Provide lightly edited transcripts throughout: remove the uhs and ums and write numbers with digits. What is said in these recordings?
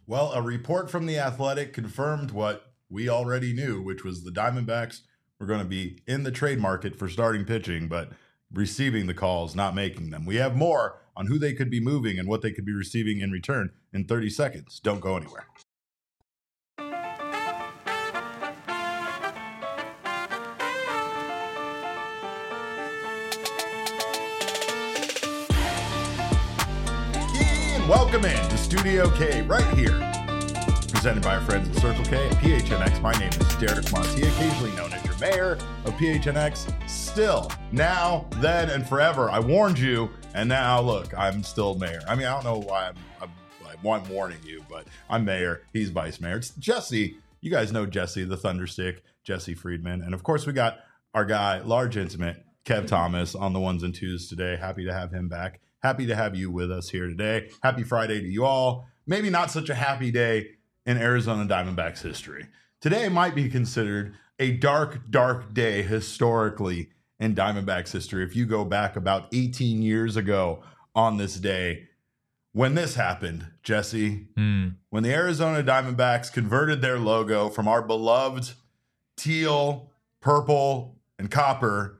Well, a report from The Athletic confirmed what we already knew, which was the Diamondbacks were going to be in the trade market for starting pitching, but receiving the calls, not making them. We have more on who they could be moving and what they could be receiving in return in 30 seconds. Don't go anywhere. Welcome in to Studio K right here, presented by our friends at Circle K at PHNX. My name is Derek Montia, occasionally known as your mayor of PHNX. Still, now, then, and forever. I warned you, and now, look, I'm still mayor. I mean, I don't know why I'm warning you, but I'm mayor. He's vice mayor. It's Jesse. You guys know Jesse, the Thunderstick, Jesse Friedman. And, of course, we got our guy, Large Intimate, Kev Thomas, on the ones and twos today. Happy to have him back. Happy to have you with us here today. Happy Friday to you all. Maybe not such a happy day in Arizona Diamondbacks history. Today might be considered a dark, dark day historically in Diamondbacks history. If you go back about 18 years ago on this day, when this happened, Jesse, when the Arizona Diamondbacks converted their logo from our beloved teal, purple, and copper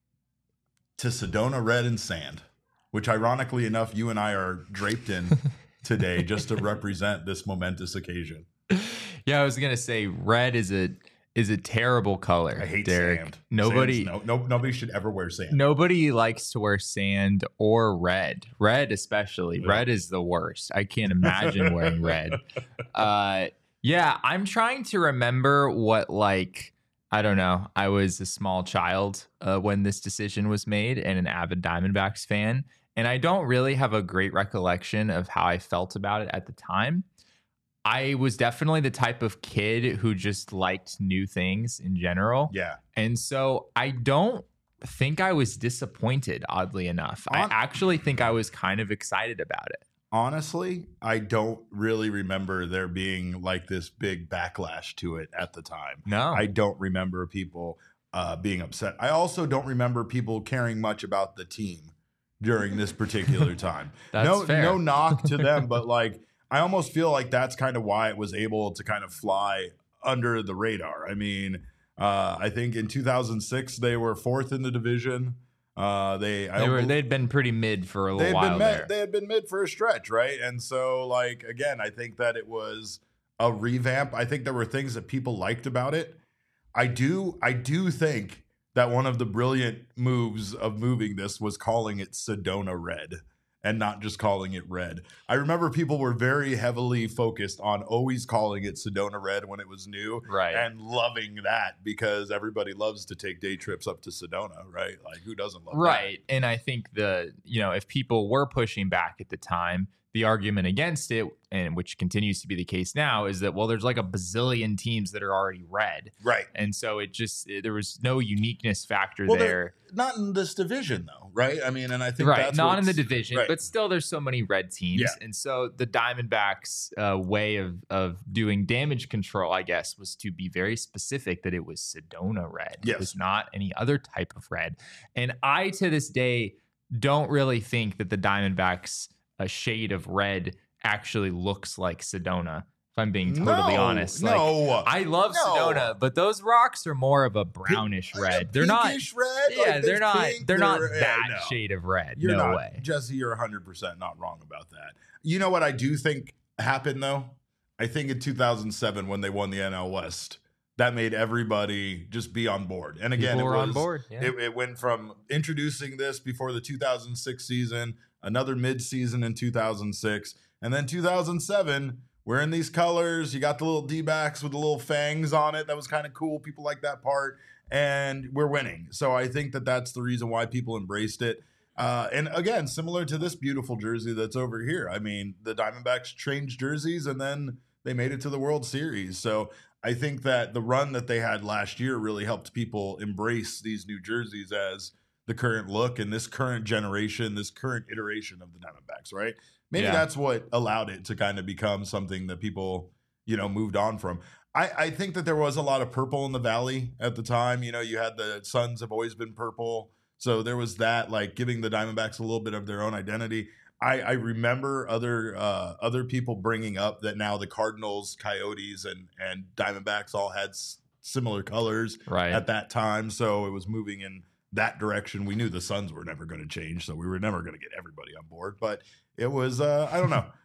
to Sedona red and sand, which ironically enough, you and I are draped in today just to represent this momentous occasion. Yeah, I was going to say red is a terrible color. I hate Derek. sand. Nobody should ever wear sand. Nobody likes to wear sand or red. Red especially. Yeah. Red is the worst. I can't imagine wearing red. Yeah, I'm trying to remember what, I don't know. I was a small child when this decision was made and an avid Diamondbacks fan. And I don't really have a great recollection of how I felt about it at the time. I was definitely the type of kid who just liked new things in general. Yeah. And so I don't think I was disappointed, oddly enough. I actually think I was kind of excited about it. Honestly, I don't really remember there being this big backlash to it at the time. No. I don't remember people being upset. I also don't remember people caring much about the team during this particular time. That's fair. No knock to them, but I almost feel like that's kind of why it was able to kind of fly under the radar. I mean, I think in 2006 they were fourth in the division. They'd been pretty mid for a little while there. They had been mid for a stretch, right? And so, again, I think that it was a revamp. I think there were things that people liked about it. I do think that one of the brilliant moves of moving this was calling it Sedona Red and not just calling it red. I remember people were very heavily focused on always calling it Sedona Red when it was new, right? And loving that because everybody loves to take day trips up to Sedona, right? Who doesn't love that? Right. And I think if people were pushing back at the time, the argument against it, and which continues to be the case now, is that, well, there's a bazillion teams that are already red. Right. And so there was no uniqueness factor there. Not in this division, though, right? I mean, and I think that's not in the division, right. But still there's so many red teams. Yeah. And so the Diamondbacks way of doing damage control, I guess, was to be very specific that it was Sedona red. Yes. It was not any other type of red. And I, to this day, don't really think that the Diamondbacks a shade of red actually looks like Sedona, if I'm being totally honest. I love Sedona, but those rocks are more of a brownish red. They're not red. Yeah, they're not that shade of red. No way. Jesse, you're 100% not wrong about that. You know what I do think happened though? I think in 2007 when they won the NL West, that made everybody just be on board. And again, people were on board. Yeah. It went from introducing this before the 2006 season, another mid-season in 2006, and then 2007, we're in these colors. You got the little D-backs with the little fangs on it. That was kind of cool. People like that part, and we're winning. So I think that that's the reason why people embraced it. And again, similar to this beautiful jersey that's over here. I mean, the Diamondbacks changed jerseys, and then they made it to the World Series. So I think that the run that they had last year really helped people embrace these new jerseys as the current look and this current generation, this current iteration of the Diamondbacks, right? Maybe that's what allowed it to kind of become something that people, moved on from. I think that there was a lot of purple in the Valley at the time. You had the Suns have always been purple. So there was that, giving the Diamondbacks a little bit of their own identity. I remember other people bringing up that now the Cardinals, Coyotes, and Diamondbacks all had similar colors at that time, so it was moving in that direction. We knew the Suns were never going to change, so we were never going to get everybody on board. But it was I don't know.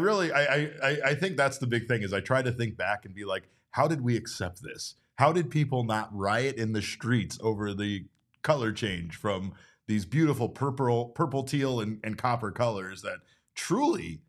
I think that's the big thing is I try to think back and be like, how did we accept this? How did people not riot in the streets over the color change from these beautiful purple, teal, and copper colors that truly,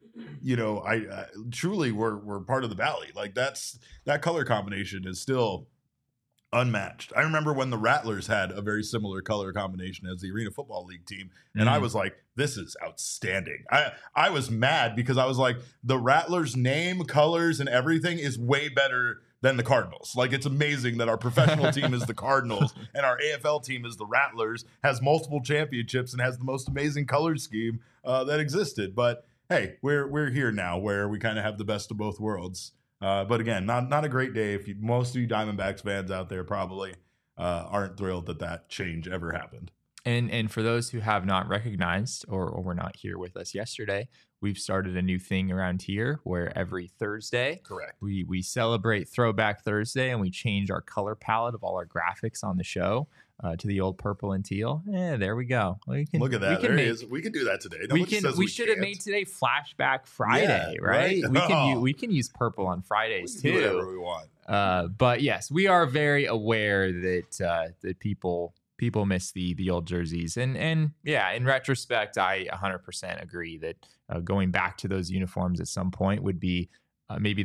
truly were part of the Valley. Like that color combination is still unmatched. I remember when the Rattlers had a very similar color combination as the Arena Football League team, and I was like, this is outstanding. I was mad because I was like, the Rattlers' name, colors, and everything is way better than the Cardinals. Like, it's amazing that our professional team is the Cardinals and our AFL team is the Rattlers, has multiple championships, and has the most amazing color scheme that existed. But hey, we're here now where we kind of have the best of both worlds. But again, not a great day. Most of you Diamondbacks fans out there probably aren't thrilled that change ever happened. And for those who have not recognized or were not here with us yesterday, we've started a new thing around here where every Thursday, correct, we celebrate Throwback Thursday and we change our color palette of all our graphics on the show to the old purple and teal. There we go. Look at that. We can do that today. We should have made today Flashback Friday, right? We can use purple on Fridays too. Do whatever we want. But yes, we are very aware that people miss the old jerseys, and yeah, in retrospect, I 100% agree that going back to those uniforms at some point would be maybe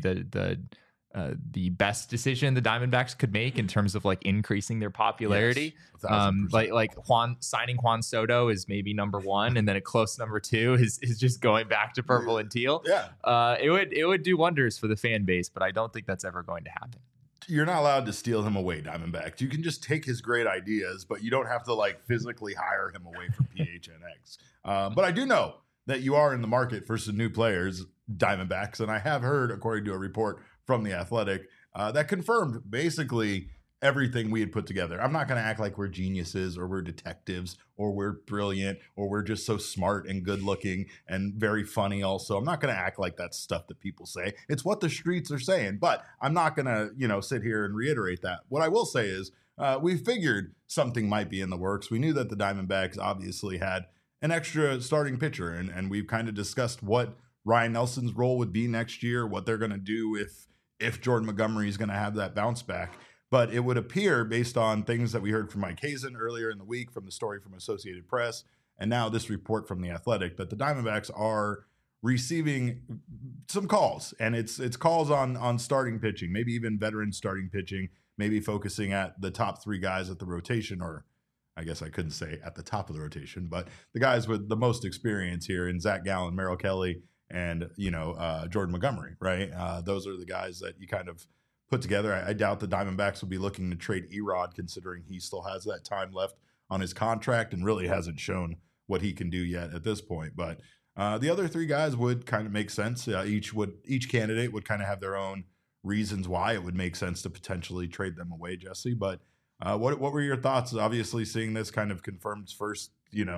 the best decision the Diamondbacks could make in terms of like increasing their popularity. Yes, like signing Juan Soto is maybe number one, and then a close number two is just going back to purple and teal. Yeah, it would do wonders for the fan base, but I don't think that's ever going to happen. You're not allowed to steal him away, Diamondbacks. You can just take his great ideas, but you don't have to like physically hire him away from PHNX. But I do know that you are in the market for some new players, Diamondbacks, and I have heard, according to a report from The Athletic, that confirmed basically everything we had put together. I'm not going to act like we're geniuses or we're detectives or we're brilliant or we're just so smart and good looking and very funny also. I'm not going to act like that's stuff that people say. It's what the streets are saying, but I'm not going to, sit here and reiterate that. What I will say is we figured something might be in the works. We knew that the Diamondbacks obviously had an extra starting pitcher, and we've kind of discussed what Ryan Nelson's role would be next year, what they're going to do if Jordan Montgomery is going to have that bounce back. But it would appear, based on things that we heard from Mike Hazen earlier in the week, from the story from Associated Press, and now this report from The Athletic, that the Diamondbacks are receiving some calls. And it's calls on starting pitching, maybe even veteran starting pitching, maybe focusing at the top three guys at the rotation, or I guess I couldn't say at the top of the rotation, but the guys with the most experience here in Zach Gallen, Merrill Kelly, and, Jordan Montgomery, right? Those are the guys that you kind of put together. I doubt the Diamondbacks will be looking to trade Erod, considering he still has that time left on his contract and really hasn't shown what he can do yet at this point. But the other three guys would kind of make sense. Each candidate would kind of have their own reasons why it would make sense to potentially trade them away, Jesse. But what were your thoughts? Obviously, seeing this kind of confirms first,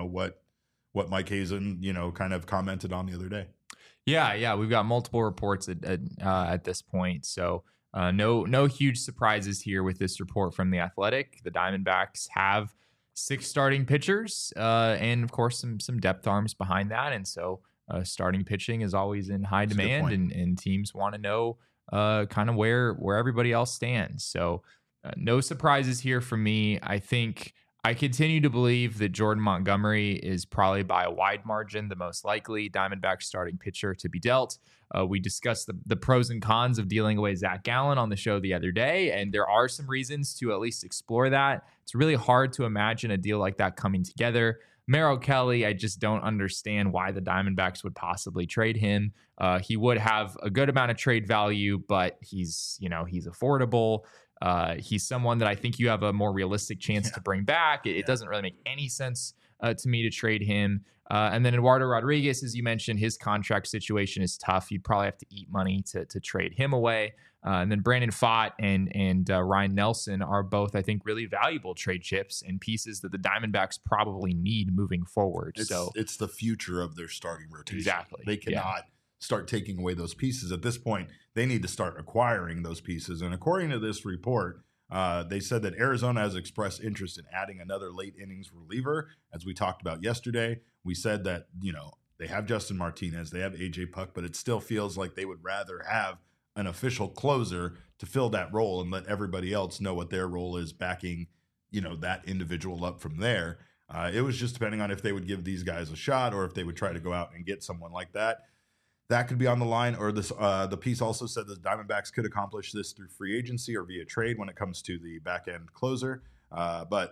what Mike Hazen, kind of commented on the other day. Yeah, we've got multiple reports at this point, so. No huge surprises here with this report from The Athletic. The Diamondbacks have 6 starting pitchers and, of course, some depth arms behind that. And so starting pitching is always in high demand, and teams want to know kind of where everybody else stands. So no surprises here for me. I think I continue to believe that Jordan Montgomery is probably by a wide margin the most likely Diamondbacks starting pitcher to be dealt. We discussed the pros and cons of dealing away Zach Gallen on the show the other day, and there are some reasons to at least explore that. It's really hard to imagine a deal like that coming together. Merrill Kelly, I just don't understand why the Diamondbacks would possibly trade him. He would have a good amount of trade value, but he's affordable. He's someone that I think you have a more realistic chance to bring back. It doesn't really make any sense to me to trade him. And then Eduardo Rodriguez, as you mentioned, his contract situation is tough. You'd probably have to eat money to trade him away. And then Brandon Pfaadt and Ryan Nelson are both, I think, really valuable trade chips and pieces that the Diamondbacks probably need moving forward. It's the future of their starting rotation. Exactly. They cannot start taking away those pieces. At this point, they need to start acquiring those pieces. And according to this report, they said that Arizona has expressed interest in adding another late innings reliever. As we talked about yesterday, we said that, they have Justin Martinez, they have AJ Puck, but it still feels like they would rather have an official closer to fill that role and let everybody else know what their role is, backing, that individual up from there. It was just depending on if they would give these guys a shot or if they would try to go out and get someone like that. That could be on the line, or this. The piece also said the Diamondbacks could accomplish this through free agency or via trade when it comes to the back end closer. But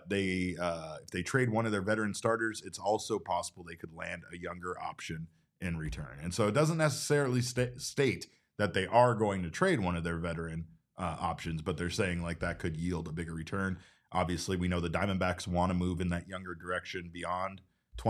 if they trade one of their veteran starters, it's also possible they could land a younger option in return. And so it doesn't necessarily state that they are going to trade one of their veteran options, but they're saying like that could yield a bigger return. Obviously, we know the Diamondbacks want to move in that younger direction beyond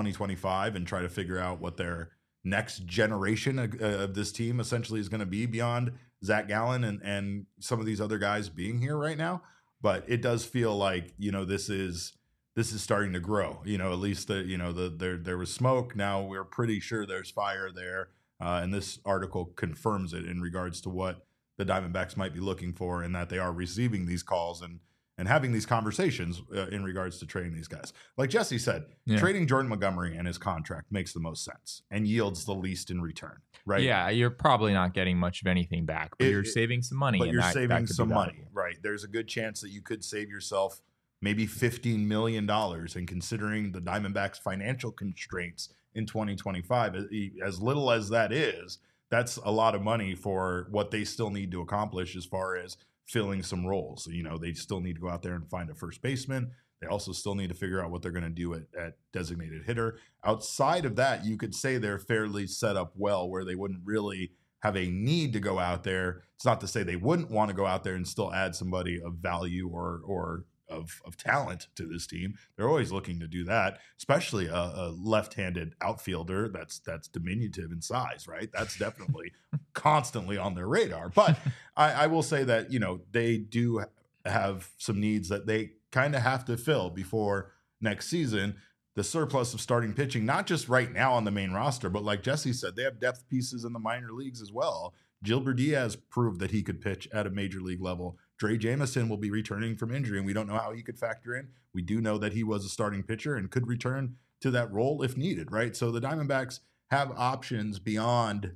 2025 and try to figure out what their next generation of this team essentially is going to be beyond Zach Gallen and some of these other guys being here right now. But it does feel like, this is starting to grow, at least there was smoke. Now we're pretty sure there's fire there. And this article confirms it in regards to what the Diamondbacks might be looking for, and that they are receiving these calls and having these conversations in regards to trading these guys. Like Jesse said, trading Jordan Montgomery and his contract makes the most sense and yields the least in return, right? Yeah, you're probably not getting much of anything back, but you're saving some money. But you're saving some money, right? There's a good chance that you could save yourself maybe $15 million, and considering the Diamondbacks' financial constraints in 2025, as little as that is, that's a lot of money for what they still need to accomplish as far as filling some roles. They still need to go out there and find a first baseman. They also still need to figure out what they're going to do at designated hitter. Outside of that, you could say they're fairly set up well where they wouldn't really have a need to go out there. It's not to say they wouldn't want to go out there and still add somebody of value or of talent to this team. They're always looking to do that, especially a left-handed outfielder that's diminutive in size, right? That's definitely constantly on their radar. But I will say that, they do have some needs that they kind of have to fill before next season. The surplus of starting pitching, not just right now on the main roster, but like Jesse said, they have depth pieces in the minor leagues as well. Gilbert Diaz proved that he could pitch at a major league level. Dre Jamison will be returning from injury, and we don't know how he could factor in. We do know that he was a starting pitcher and could return to that role if needed, right? So the Diamondbacks have options beyond,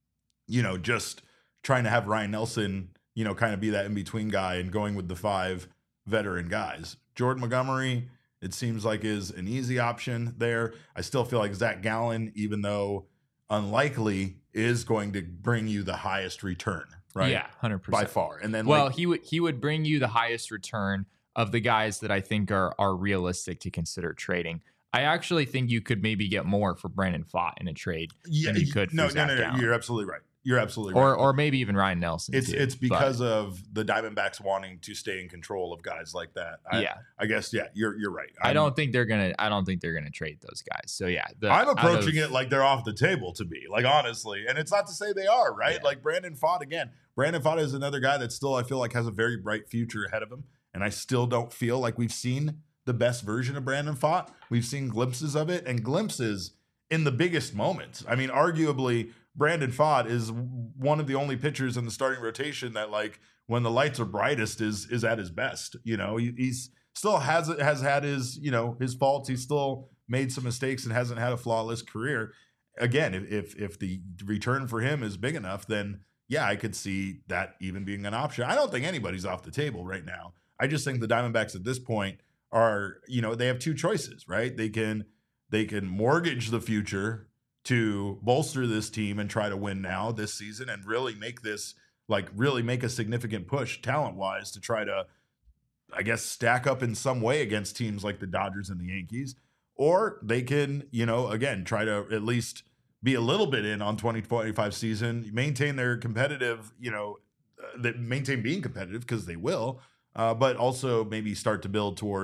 just trying to have Ryan Nelson, kind of be that in-between guy and going with the 5 veteran guys. Jordan Montgomery, it seems like, is an easy option there. I still feel like Zach Gallen, even though unlikely, is going to bring you the highest return, right? Yeah, 100%. By far. And then he would bring you the highest return of the guys that I think are realistic to consider trading. I actually think you could maybe get more for Brandon Pfaadt in a trade than you could for Zach Gallen. You're absolutely right. You're absolutely right. Or maybe even Ryan Nelson. It's because of the Diamondbacks wanting to stay in control of guys like that. I guess you're right. I don't think they're gonna trade those guys. So yeah, I'm approaching it like they're off the table to me. Like, honestly, and it's not to say they are, right? Yeah. Like Brandon Pfaadt again. Brandon Pfaadt is another guy that still I feel like has a very bright future ahead of him, and I still don't feel like we've seen the best version of Brandon Pfaadt. We've seen glimpses of it, and glimpses in the biggest moments. I mean, arguably, Brandon Pfaadt is one of the only pitchers in the starting rotation that, like, when the lights are brightest, is at his best. He's still has had his his faults. He's still made some mistakes and hasn't had a flawless career. Again, if the return for him is big enough, then yeah, I could see that even being an option. I don't think anybody's off the table right now. I just think the Diamondbacks at this point are, they have 2 choices, right? They can mortgage the future to bolster this team and try to win now this season and really make this, really make a significant push talent-wise to try to, I guess, stack up in some way against teams like the Dodgers and the Yankees. Or they can, again, try to at least be a little bit in on 2025 season, maintain their competitive, maintain being competitive, because they will, but also maybe start to build towards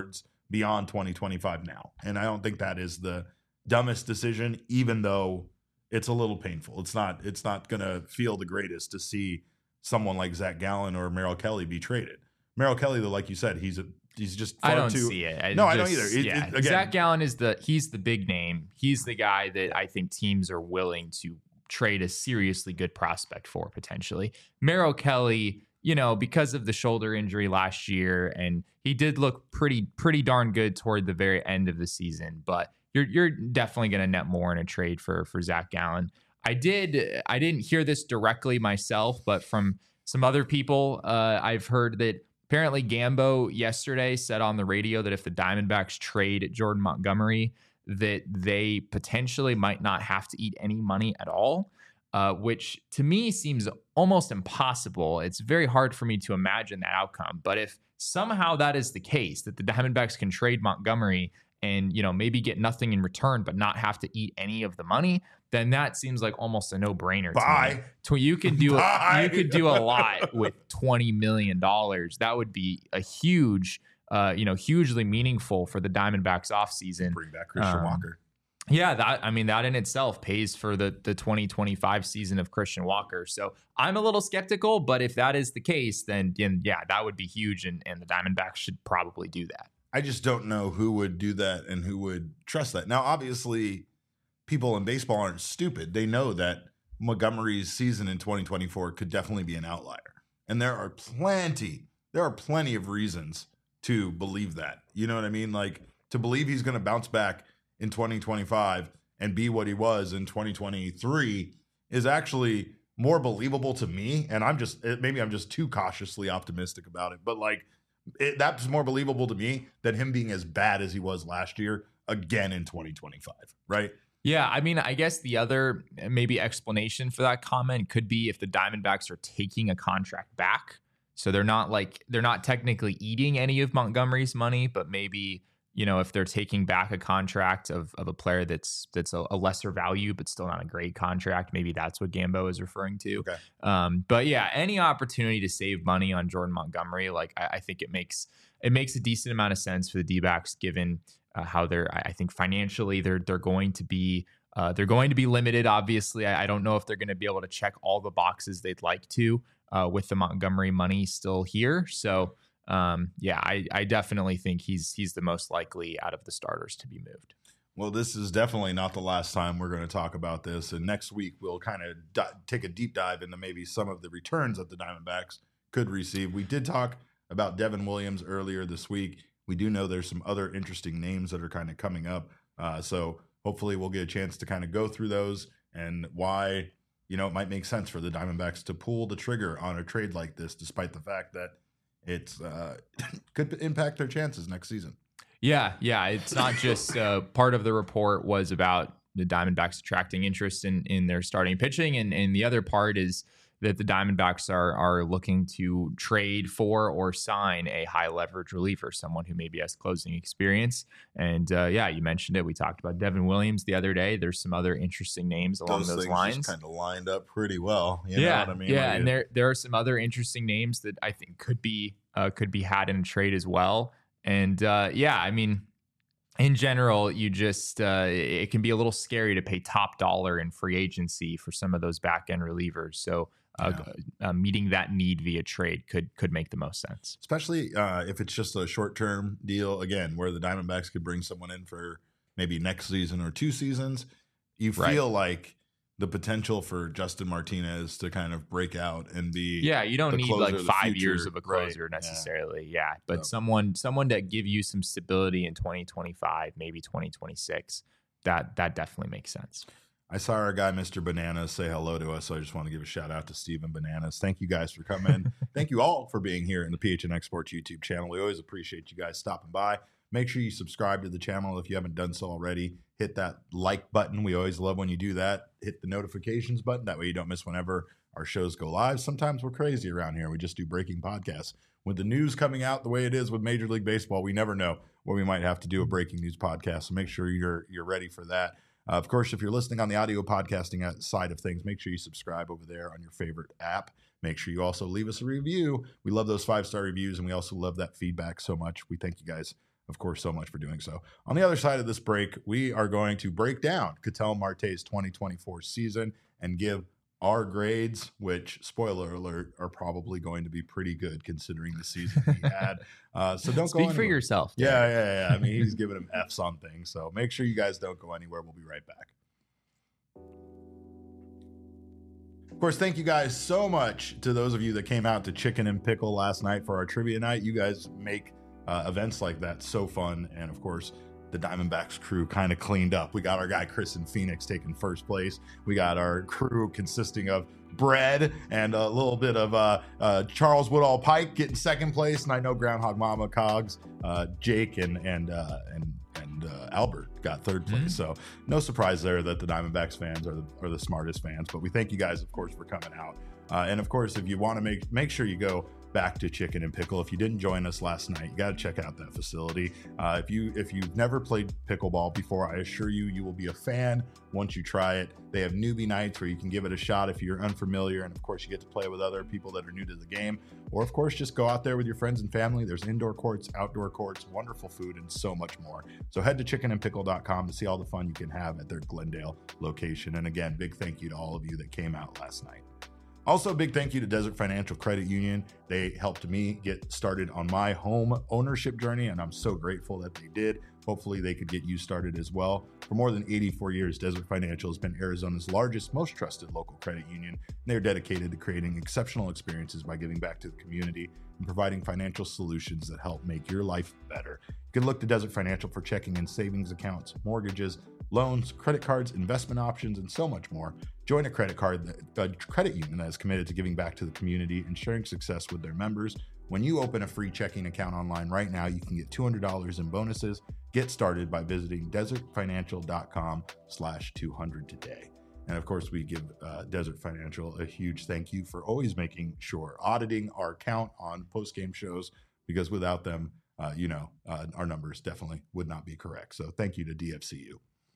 beyond 2025 now. And I don't think that is the dumbest decision, even though it's a little painful. It's not going to feel the greatest to see someone like Zach Gallen or Merrill Kelly be traded. Merrill Kelly, though, like you said, he's just far I don't too, see it. I don't either. Again, Zach Gallen he's the big name. He's the guy that I think teams are willing to trade a seriously good prospect for potentially. Merrill Kelly, because of the shoulder injury last year, and he did look pretty darn good toward the very end of the season, but you're definitely going to net more in a trade for Zach Gallen. I didn't hear this directly myself, but from some other people, I've heard that apparently Gambo yesterday said on the radio that if the Diamondbacks trade Jordan Montgomery, that they potentially might not have to eat any money at all, which to me seems almost impossible. It's very hard for me to imagine that outcome. But if somehow that is the case, that the Diamondbacks can trade Montgomery and maybe get nothing in return, but not have to eat any of the money, then that seems like almost a no-brainer. Bye. To me. You could do a lot with $20 million. That would be a huge, hugely meaningful for the Diamondbacks offseason. Bring back Christian Walker. Yeah, that in itself pays for the 2025 season of Christian Walker. So I'm a little skeptical, but if that is the case, then yeah, that would be huge, and the Diamondbacks should probably do that. I just don't know who would do that and who would trust that. Now, obviously, people in baseball aren't stupid. They know that Montgomery's season in 2024 could definitely be an outlier. And there are plenty of reasons to believe that. You know what I mean? Like, to believe he's going to bounce back in 2025 and be what he was in 2023 is actually more believable to me. And maybe I'm just too cautiously optimistic about it. But that's more believable to me than him being as bad as he was last year again in 2025, right? Yeah, I guess the other maybe explanation for that comment could be if the Diamondbacks are taking a contract back. So they're not technically eating any of Montgomery's money, but maybe, if they're taking back a contract of a player that's a lesser value, but still not a great contract, maybe that's what Gambo is referring to. Okay. But yeah, any opportunity to save money on Jordan Montgomery, I think it makes a decent amount of sense for the D-backs, given how I think financially they're going to be limited. Obviously, I don't know if they're going to be able to check all the boxes they'd like to with the Montgomery money still here. So I definitely think he's the most likely out of the starters to be moved. Well, this is definitely not the last time we're going to talk about this. And next week, we'll kind of take a deep dive into maybe some of the returns that the Diamondbacks could receive. We did talk about Devin Williams earlier this week. We do know there's some other interesting names that are kind of coming up. So hopefully we'll get a chance to kind of go through those and why, it might make sense for the Diamondbacks to pull the trigger on a trade like this, despite the fact that it's could impact their chances next season. Yeah. It's not just part of the report was about the Diamondbacks attracting interest in their starting pitching. And the other part is that the Diamondbacks are looking to trade for or sign a high leverage reliever, someone who maybe has closing experience. And you mentioned it. We talked about Devin Williams the other day. There's some other interesting names along those lines. Just kind of lined up pretty well. You know what I mean? Yeah, and there are some other interesting names that I think could be had in a trade as well. And in general, you just it can be a little scary to pay top dollar in free agency for some of those back end relievers. So meeting that need via trade could make the most sense, especially if it's just a short term deal. Again, where the Diamondbacks could bring someone in for maybe next season or 2 seasons. You feel like the potential for Justin Martinez to kind of break out and be you don't need like 5 years of a closer necessarily. But someone to give you some stability in 2025, maybe 2026, that definitely makes sense. I saw our guy Mr. Bananas say hello to us, so I just want to give a shout out to Steven Bananas. Thank you guys for coming. Thank you all for being here in the PHNX Sports YouTube channel. We always appreciate you guys stopping by. Make sure you subscribe to the channel if you haven't done so already. Hit that like button. We always love when you do that. Hit the notifications button. That way you don't miss whenever our shows go live. Sometimes we're crazy around here. We just do breaking podcasts. With the news coming out the way it is with Major League Baseball, we never know where we might have to do a breaking news podcast. So make sure you're ready for that. Of course, if you're listening on the audio podcasting side of things, make sure you subscribe over there on your favorite app. Make sure you also leave us a review. We love those 5-star reviews, and we also love that feedback so much. We thank you guys of course, so much for doing so. On the other side of this break, we are going to break down Ketel Marte's 2024 season and give our grades, which, spoiler alert, are probably going to be pretty good considering the season he had. So don't Speak go for yourself. Yeah. I mean, he's giving him F's on things. So make sure you guys don't go anywhere. We'll be right back. Of course, thank you guys so much to those of you that came out to Chicken and Pickle last night for our trivia night. You guys make events like that so fun. And of course, the Diamondbacks crew kind of cleaned up. We got our guy Chris in Phoenix taking first place. We got our crew consisting of Bread and a little bit of Charles Woodall Pike getting second place, and I know Groundhog Mama Cogs, Jake and Albert got third place. So no surprise there that the Diamondbacks fans are the smartest fans. But we thank you guys, of course, for coming out. And of course, if you want to make sure you go back to Chicken and Pickle. If you didn't join us last night, you got to check out that facility. If you've never played pickleball before, I assure you will be a fan once you try it. They have newbie nights where you can give it a shot if you're unfamiliar, and of course you get to play with other people that are new to the game, or of course just go out there with your friends and family. There's indoor courts, outdoor courts, wonderful food, and so much more. So head to chickenandpickle.com to see all the fun you can have at their Glendale location. And again, big thank you to all of you that came out last night. Also, big thank you to Desert Financial Credit Union. They helped me get started on my home ownership journey, and I'm so grateful that they did. Hopefully, they could get you started as well. For more than 84 years, Desert Financial has been Arizona's largest, most trusted local credit union. And they're dedicated to creating exceptional experiences by giving back to the community and providing financial solutions that help make your life better. You can look to Desert Financial for checking and savings accounts, mortgages, loans, credit cards, investment options, and so much more. Join a credit union that is committed to giving back to the community and sharing success with their members. When you open a free checking account online right now, you can get $200 in bonuses. Get started by visiting desertfinancial.com/200 today. And of course, we give Desert Financial a huge thank you for always making sure auditing our account on post-game shows, because without them, our numbers definitely would not be correct. So thank you to DFCU.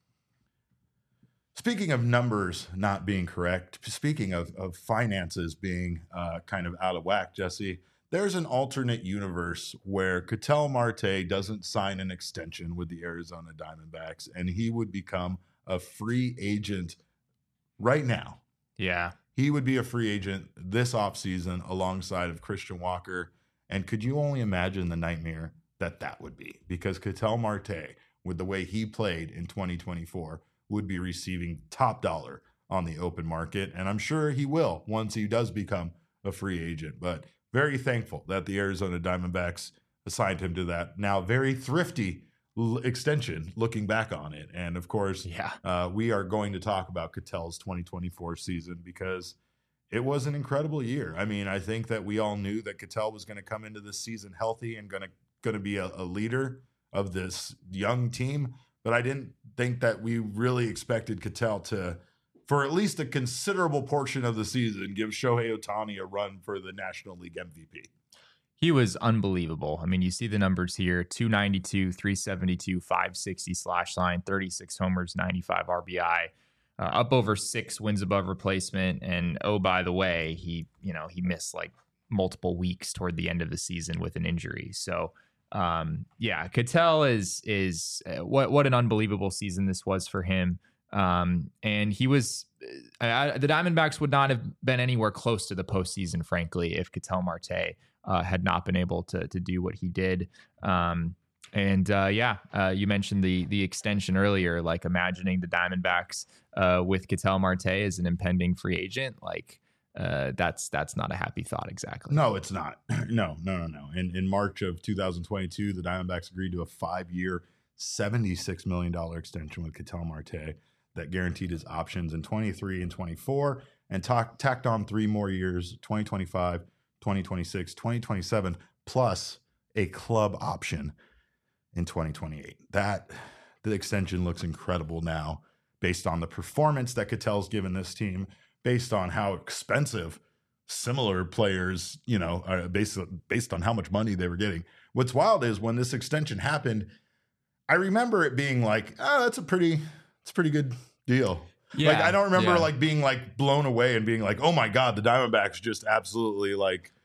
Speaking of numbers not being correct, speaking of finances being kind of out of whack, Jesse, there's an alternate universe where Ketel Marte doesn't sign an extension with the Arizona Diamondbacks, and he would become a free agent right now. Yeah. He would be a free agent this offseason alongside of Christian Walker. And could you only imagine the nightmare that would be? Because Ketel Marte, with the way he played in 2024, would be receiving top dollar on the open market. And I'm sure he will once he does become a free agent. But very thankful that the Arizona Diamondbacks assigned him to that now very thrifty extension looking back on it. And of course, we are going to talk about Ketel's 2024 season because it was an incredible year. I mean, I think that we all knew that Ketel was going to come into this season healthy and going to be a leader of this young team. But I didn't think that we really expected Ketel to, for at least a considerable portion of the season, give Shohei Ohtani a run for the National League MVP. He was unbelievable. I mean, you see the numbers here: 292, 372, 560 slash line, 36 homers, 95 RBI, up over 6 wins above replacement. And oh, by the way, he missed like multiple weeks toward the end of the season with an injury. So Ketel is what an unbelievable season this was for him. And he was, the Diamondbacks would not have been anywhere close to the postseason, frankly, if Ketel Marte had not been able to do what he did. You mentioned the extension earlier, like imagining the Diamondbacks with Ketel Marte as an impending free agent, like that's not a happy thought exactly. No, it's not. No. In March of 2022, the Diamondbacks agreed to a 5-year, $76 million extension with Ketel Marte that guaranteed his options in 23 and 24 and tacked on 3 more years, 2025, 2026, 2027, plus a club option in 2028. The extension looks incredible now based on the performance that Ketel's given this team, based on how expensive similar players, based on how much money they were getting. What's wild is when this extension happened, I remember it being like, it's a pretty good deal. Yeah, I don't remember being blown away and being like, oh my God, the Diamondbacks just absolutely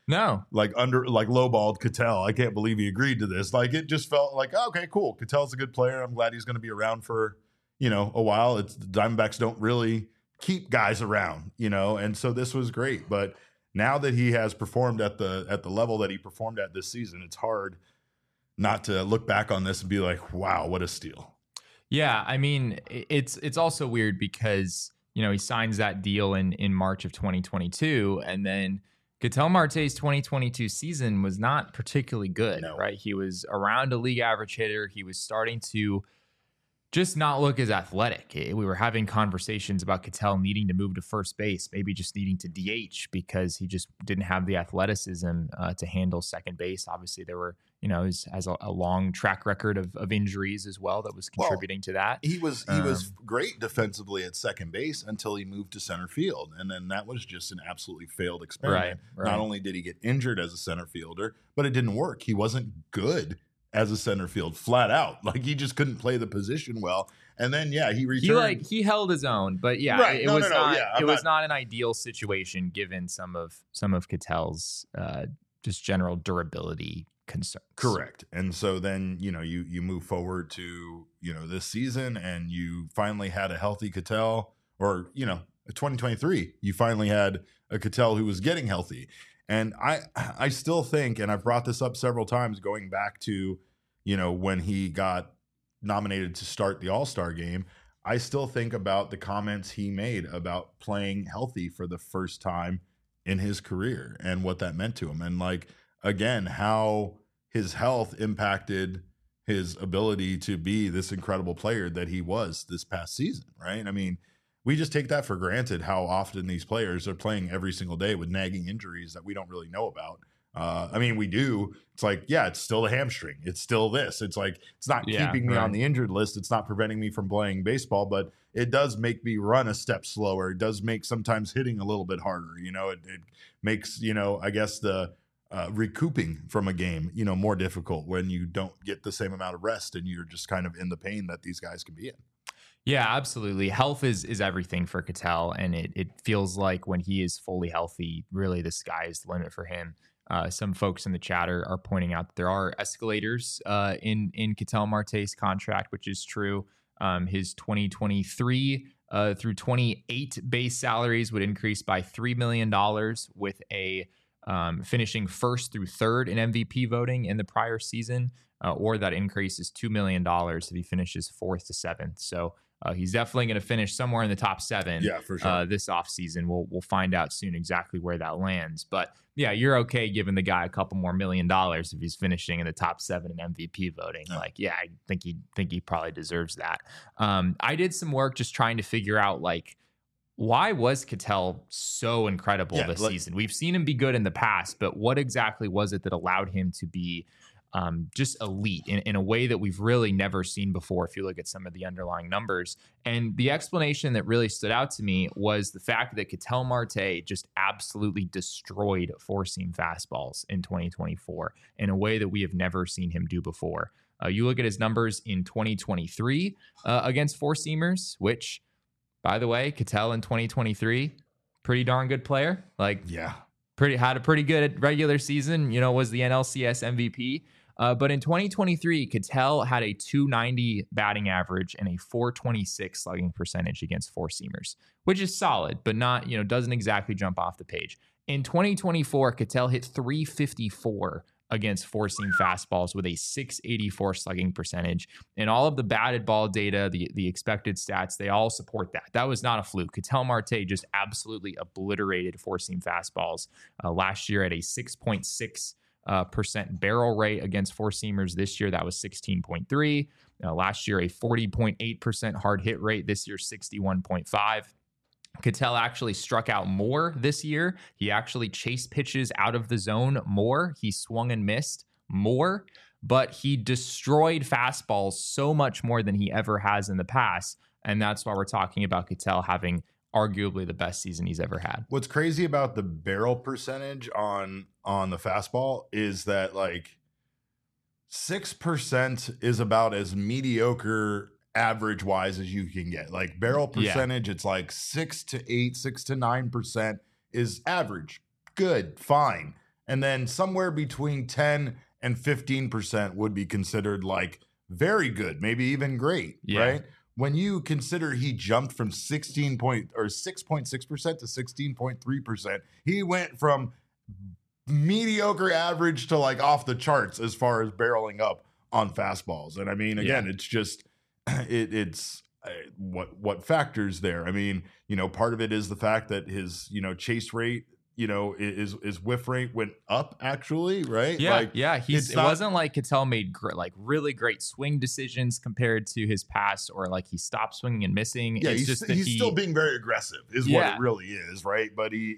like lowballed Ketel. I can't believe he agreed to this. Like, it just felt like, oh, okay, cool. Ketel's a good player. I'm glad he's going to be around for, a while. The Diamondbacks don't really keep guys around, and so this was great. But now that he has performed at the level that he performed at this season, it's hard not to look back on this and be like, wow, what a steal. Yeah, I mean, it's also weird because, he signs that deal in March of 2022, and then Ketel Marte's 2022 season was not particularly good, right? He was around a league average hitter. He was starting to just not look as athletic. We were having conversations about Ketel needing to move to first base, maybe just needing to DH because he just didn't have the athleticism to handle second base. Obviously, there were, he has a long track record of injuries as well that was contributing to that. He was great defensively at second base until he moved to center field. And then that was just an absolutely failed experiment. Right. Not only did he get injured as a center fielder, but it didn't work. He wasn't good as a center field, flat out. Like, he just couldn't play the position well. And then, he returned. He held his own, but it was not an ideal situation given some of Ketel's just general durability concerns. Correct. And so then, you move forward to, this season, and you finally had a healthy Ketel, or, 2023, you finally had a Ketel who was getting healthy. And I still think, and I've brought this up several times going back to, when he got nominated to start the All-Star game, I still think about the comments he made about playing healthy for the first time in his career and what that meant to him. And, like, again, how his health impacted his ability to be this incredible player that he was this past season, right? I mean, we just take that for granted, how often these players are playing every single day with nagging injuries that we don't really know about. I mean, we do. It's like, it's still the hamstring. It's still this. It's like, it's not keeping me on the injured list. It's not preventing me from playing baseball, but it does make me run a step slower. It does make sometimes hitting a little bit harder. It makes, I guess the recouping from a game, more difficult when you don't get the same amount of rest and you're just kind of in the pain that these guys can be in. Yeah, absolutely. Health is everything for Ketel, and it feels like when he is fully healthy, really the sky is the limit for him. Some folks in the chat are pointing out that there are escalators in Ketel Marte's contract, which is true. His 2023 through 28 base salaries would increase by $3 million with a finishing first through third in MVP voting in the prior season, or that increase is $2 million if he finishes fourth to seventh. So he's definitely going to finish somewhere in the top 7 for sure. This offseason. We'll find out soon exactly where that lands. But you're okay giving the guy a couple more $1 million if he's finishing in the top 7 in MVP voting. I think he probably deserves that. I did some work just trying to figure out, like, why was Ketel so incredible this season? We've seen him be good in the past, but what exactly was it that allowed him to be just elite in a way that we've really never seen before if you look at some of the underlying numbers? And the explanation that really stood out to me was the fact that Ketel Marte just absolutely destroyed four-seam fastballs in 2024 in a way that we have never seen him do before. You look at his numbers in 2023 against four-seamers, which, by the way, Ketel in 2023, pretty darn good player. Had a pretty good regular season, was the NLCS MVP. But in 2023, Ketel had a .290 batting average and a .426 slugging percentage against four-seamers, which is solid, but not, doesn't exactly jump off the page. In 2024, Ketel hit .354 against four-seam fastballs with a .684 slugging percentage. And all of the batted ball data, the expected stats, they all support that. That was not a fluke. Ketel Marte just absolutely obliterated four-seam fastballs last year at a 6.6% barrel rate against four-seamers. This year, that was 16.3. Last year, a 40.8% hard hit rate. This year, 61.5. Ketel actually struck out more this year. He actually chased pitches out of the zone more. He swung and missed more, but he destroyed fastballs so much more than he ever has in the past. And that's why we're talking about Ketel having arguably the best season he's ever had. What's crazy about the barrel percentage on the fastball is that, like, 6% is about as mediocre average wise as you can get. Like, barrel percentage, it's like 6 to 8, 6 to 9% is average. Good, fine. And then somewhere between 10 and 15% would be considered like very good, maybe even great, right? When you consider he jumped from 6.6% to 16.3%, he went from mediocre average to like off the charts as far as barreling up on fastballs. And I mean, again, it's just it's what factors there. I mean, part of it is the fact that his chase rate, his whiff rate went up actually, right? It wasn't like Ketel made really great swing decisions compared to his past, or like he stopped swinging and missing. Yeah, he's still being very aggressive is what it really is, right? But he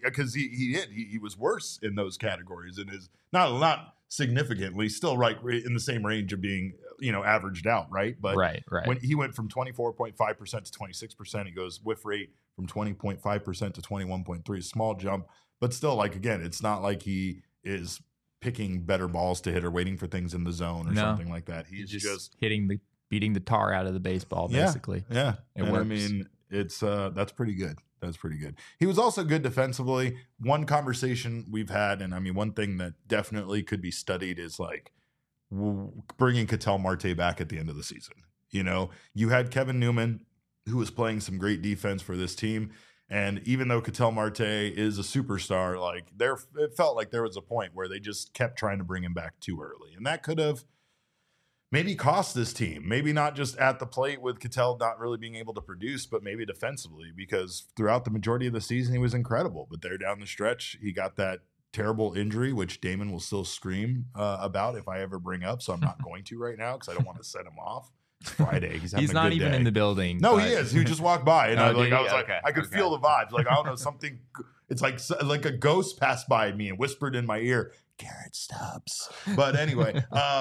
was worse in those categories and is not significantly, still right in the same range of being averaged out, right? But when he went from 24.5% to 26%, he goes whiff rate from 20.5% to 21.3, small jump. But still, like, again, it's not like he is picking better balls to hit or waiting for things in the zone or something like that. He's just beating the tar out of the baseball, basically. Yeah. It works. I mean, it's that's pretty good. That's pretty good. He was also good defensively. One conversation we've had, and I mean, one thing that definitely could be studied is like bringing Ketel Marte back at the end of the season. You had Kevin Newman, who was playing some great defense for this team. And even though Ketel Marte is a superstar, like it felt like there was a point where they just kept trying to bring him back too early. And that could have maybe cost this team, maybe not just at the plate with Ketel not really being able to produce, but maybe defensively, because throughout the majority of the season, he was incredible. But there down the stretch, he got that terrible injury, which Damon will still scream about if I ever bring up. So I'm not going to right now because I don't want to set him off. It's Friday. He's not even in the building. No, he is. He just walked by, and I could feel the vibes. Like, I don't know, something. It's like a ghost passed by me and whispered in my ear, "Garrett Stubbs." But anyway,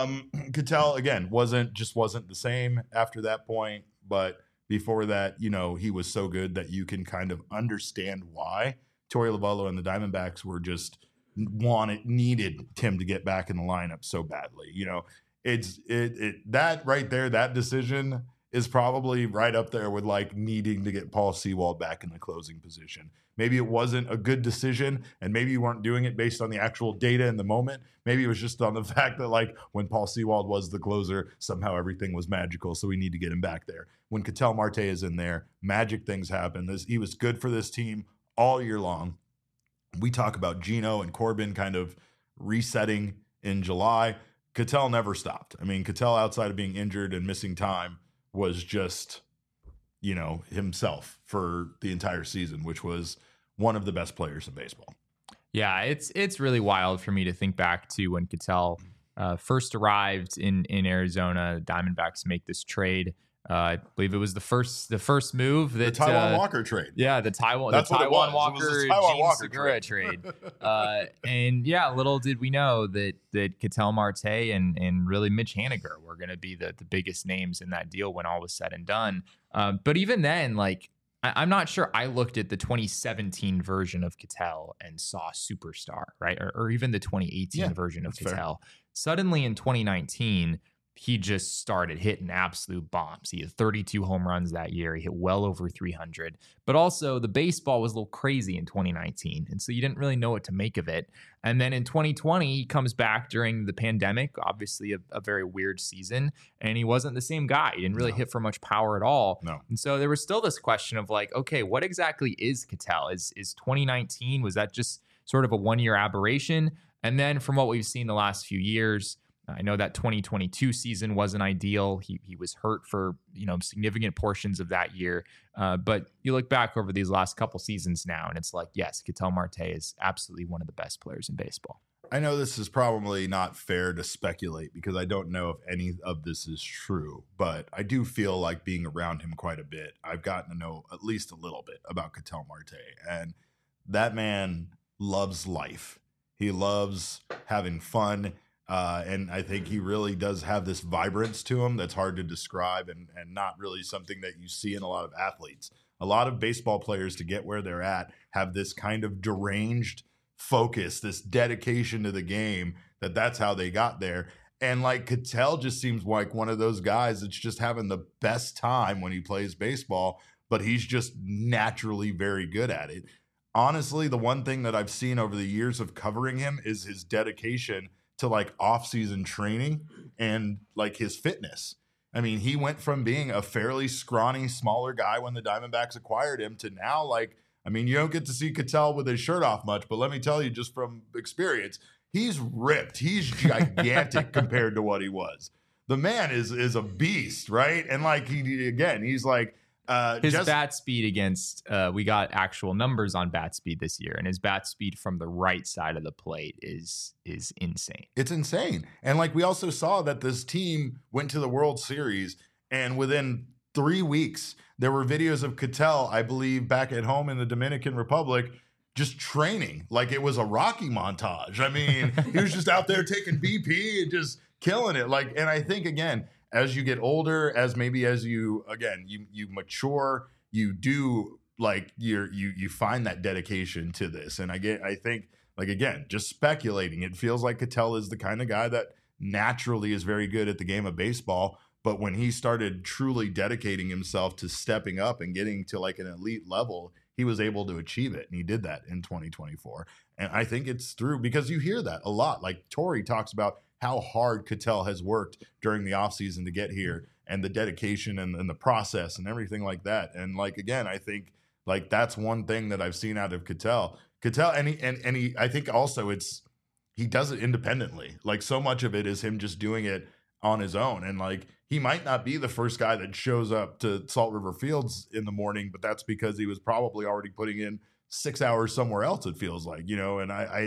Ketel again wasn't the same after that point. But before that, he was so good that you can kind of understand why Torey Lovullo and the Diamondbacks were just needed Tim to get back in the lineup so badly. It's that right there, that decision is probably right up there with like needing to get Paul Sewald back in the closing position. Maybe it wasn't a good decision, and maybe you weren't doing it based on the actual data in the moment. Maybe it was just on the fact that like when Paul Sewald was the closer, somehow everything was magical, so we need to get him back there. When Ketel Marte is in there, magic things happen. He was good for this team all year long. We talk about Gino and Corbin kind of resetting in July. Ketel never stopped. I mean, Ketel, outside of being injured and missing time, was just, himself for the entire season, which was one of the best players in baseball. Yeah, it's really wild for me to think back to when Ketel first arrived in Arizona. The Diamondbacks make this trade. I believe it was the first move that the Taiwan Walker trade. Yeah, the Taiwan Walker Gene Segura trade. And yeah, little did we know that Ketel Marte and really Mitch Haniger were going to be the biggest names in that deal when all was said and done. But even then, like, I'm not sure I looked at the 2017 version of Ketel and saw superstar, right? Or even the 2018 version of Ketel. Fair. Suddenly in 2019, he just started hitting absolute bombs. He had 32 home runs that year. He hit well over 300. But also the baseball was a little crazy in 2019. And so you didn't really know what to make of it. And then in 2020, he comes back during the pandemic, obviously a very weird season. And he wasn't the same guy. He didn't really hit for much power at all. No. And so there was still this question of like, okay, what exactly is Ketel? Is 2019, was that just sort of a one-year aberration? And then from what we've seen the last few years, I know that 2022 season wasn't ideal. He was hurt for significant portions of that year. But you look back over these last couple seasons now, and it's like, yes, Ketel Marte is absolutely one of the best players in baseball. I know this is probably not fair to speculate because I don't know if any of this is true, but I do feel like being around him quite a bit, I've gotten to know at least a little bit about Ketel Marte. And that man loves life. He loves having fun. And I think he really does have this vibrance to him that's hard to describe and not really something that you see in a lot of athletes. A lot of baseball players, to get where they're at, have this kind of deranged focus, this dedication to the game, that's how they got there. And like Ketel just seems like one of those guys that's just having the best time when he plays baseball, but he's just naturally very good at it. honestly, the one thing that I've seen over the years of covering him is his dedication to like off-season training and like his fitness. I mean, he went from being a fairly scrawny, smaller guy when the Diamondbacks acquired him to now, like, I mean, you don't get to see Ketel with his shirt off much, but let me tell you, just from experience, he's ripped. He's gigantic compared to what he was. The man is a beast, right? And like he's like his bat speed against we got actual numbers on bat speed this year, and his bat speed from the right side of the plate is insane. It's insane. And like we also saw that this team went to the World Series, and within 3 weeks there were videos of Ketel, I believe, back at home in the Dominican Republic, just training like it was a Rocky montage. I mean, he was just out there taking BP and just killing it. Like, and I think again, as you get older, as you mature, you do like you find that dedication to this. And I think like, again, just speculating, it feels like Ketel is the kind of guy that naturally is very good at the game of baseball. But when he started truly dedicating himself to stepping up and getting to like an elite level, he was able to achieve it. And he did that in 2024. And I think it's through, because you hear that a lot. Like Torey talks about how hard Ketel has worked during the offseason to get here, and the dedication and the process and everything like that. And like, again, I think like that's one thing that I've seen out of Ketel. And he I think also he does it independently. Like so much of it is him just doing it on his own. And like, he might not be the first guy that shows up to Salt River Fields in the morning, but that's because he was probably already putting in 6 hours somewhere else, it feels like, you know. And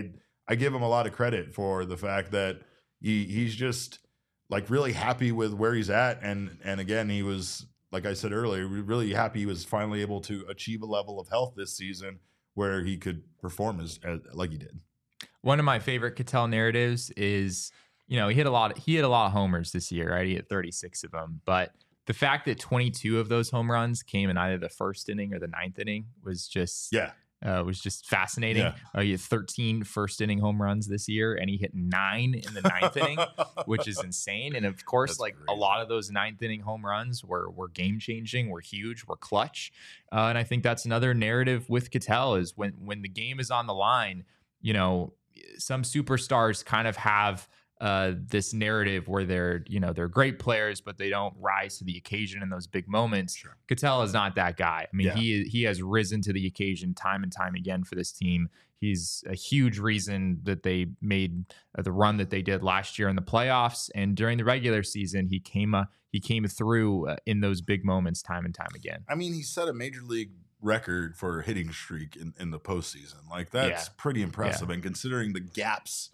I give him a lot of credit for the fact that he's just like really happy with where he's at. And again, he was, like I said earlier, really happy he was finally able to achieve a level of health this season where he could perform as like he did. One of my favorite Ketel narratives is, you know, he hit a lot of homers this year, right? He hit 36 of them. But the fact that 22 of those home runs came in either the first inning or the ninth inning was just fascinating. Yeah. He had 13 first inning home runs this year, and he hit 9 in the ninth inning, which is insane. And of course, that's like crazy. A lot of those ninth inning home runs were game changing, were huge, were clutch. And I think that's another narrative with Ketel is when the game is on the line, you know, some superstars kind of have this narrative where they're great players, but they don't rise to the occasion in those big moments. Sure. Ketel is not that guy. I mean, he has risen to the occasion time and time again for this team. He's a huge reason that they made the run that they did last year in the playoffs, and during the regular season, he came through in those big moments time and time again. I mean, he set a major league record for hitting streak in the postseason. Like that's pretty impressive, and considering the gaps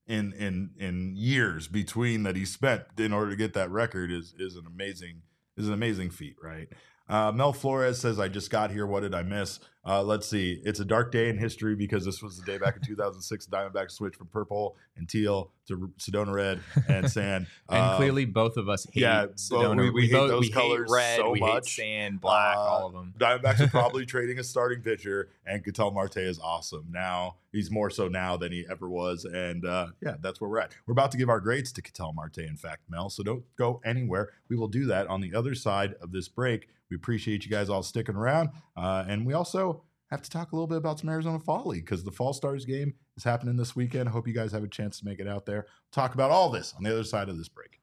in years between that he spent in order to get that record is an amazing feat, right? Mel Flores says, I just got here. What did I miss? Let's see. It's a dark day in history because this was the day back in 2006 the Diamondbacks switched from purple and teal to Sedona red and sand. And clearly both of us hate Sedona. We hate those colors hate red, so we much. Hate sand, black, all of them. Diamondbacks are probably trading a starting pitcher, and Ketel Marte is awesome. Now, he's more so now than he ever was. And that's where we're at. We're about to give our grades to Ketel Marte, in fact, Mel. So don't go anywhere. We will do that on the other side of this break. We appreciate you guys all sticking around. And we also have to talk a little bit about some Arizona Fall League because the Fall Stars game is happening this weekend. Hope you guys have a chance to make it out there. Talk about all this on the other side of this break.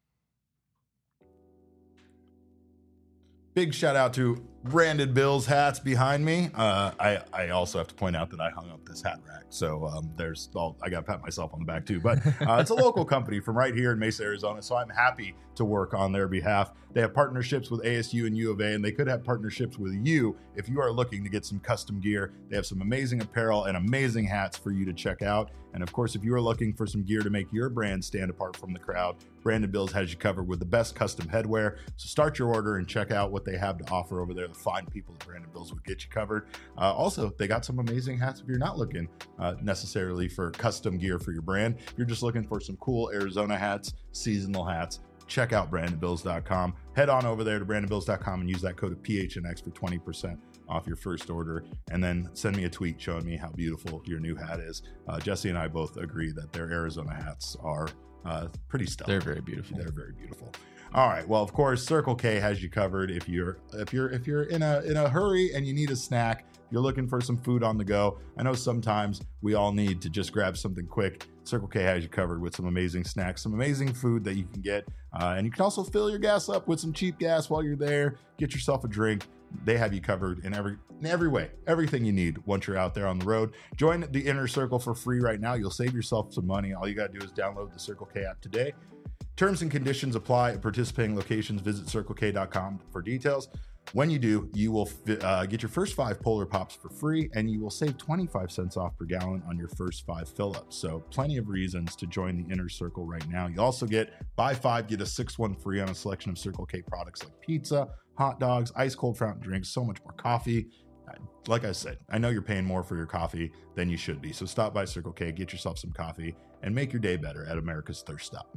Big shout out to Branded Bills hats behind me. I also have to point out that I hung up this hat rack. So I got to pat myself on the back too. But it's a local company from right here in Mesa, Arizona. So I'm happy to work on their behalf. They have partnerships with ASU and U of A, and they could have partnerships with you if you are looking to get some custom gear. They have some amazing apparel and amazing hats for you to check out. And of course, if you are looking for some gear to make your brand stand apart from the crowd, Branded Bills has you covered with the best custom headwear. So start your order and check out what they have to offer over there. The fine people at Branded Bills will get you covered. Also, they got some amazing hats if you're not looking necessarily for custom gear for your brand. If you're just looking for some cool Arizona hats, seasonal hats, check out brandedbills.com. Head on over there to brandedbills.com and use that code of PHNX for 20% off your first order. And then send me a tweet showing me how beautiful your new hat is. Jesse and I both agree that their Arizona hats are pretty stellar. They're very beautiful. They're very beautiful. All right. Well, of course, Circle K has you covered if you're in a hurry and you need a snack. You're looking for some food on the go. I know sometimes we all need to just grab something quick. Circle K has you covered with some amazing snacks, some amazing food that you can get. And you can also fill your gas up with some cheap gas while you're there. Get yourself a drink. They have you covered in every way, everything you need once you're out there on the road. Join the Inner Circle for free right now. You'll save yourself some money. All you got to do is download the Circle K app today. Terms and conditions apply at participating locations. Visit circlek.com for details. When you do, you will get your first 5 Polar Pops for free, and you will save 25 cents off per gallon on your first 5 fill-ups. So plenty of reasons to join the Inner Circle right now. You also get buy 5, get a 6th one free on a selection of Circle K products like pizza, hot dogs, ice cold fountain drinks, so much more coffee. Like I said, I know you're paying more for your coffee than you should be. So stop by Circle K, get yourself some coffee, and make your day better at America's Thirst Stop.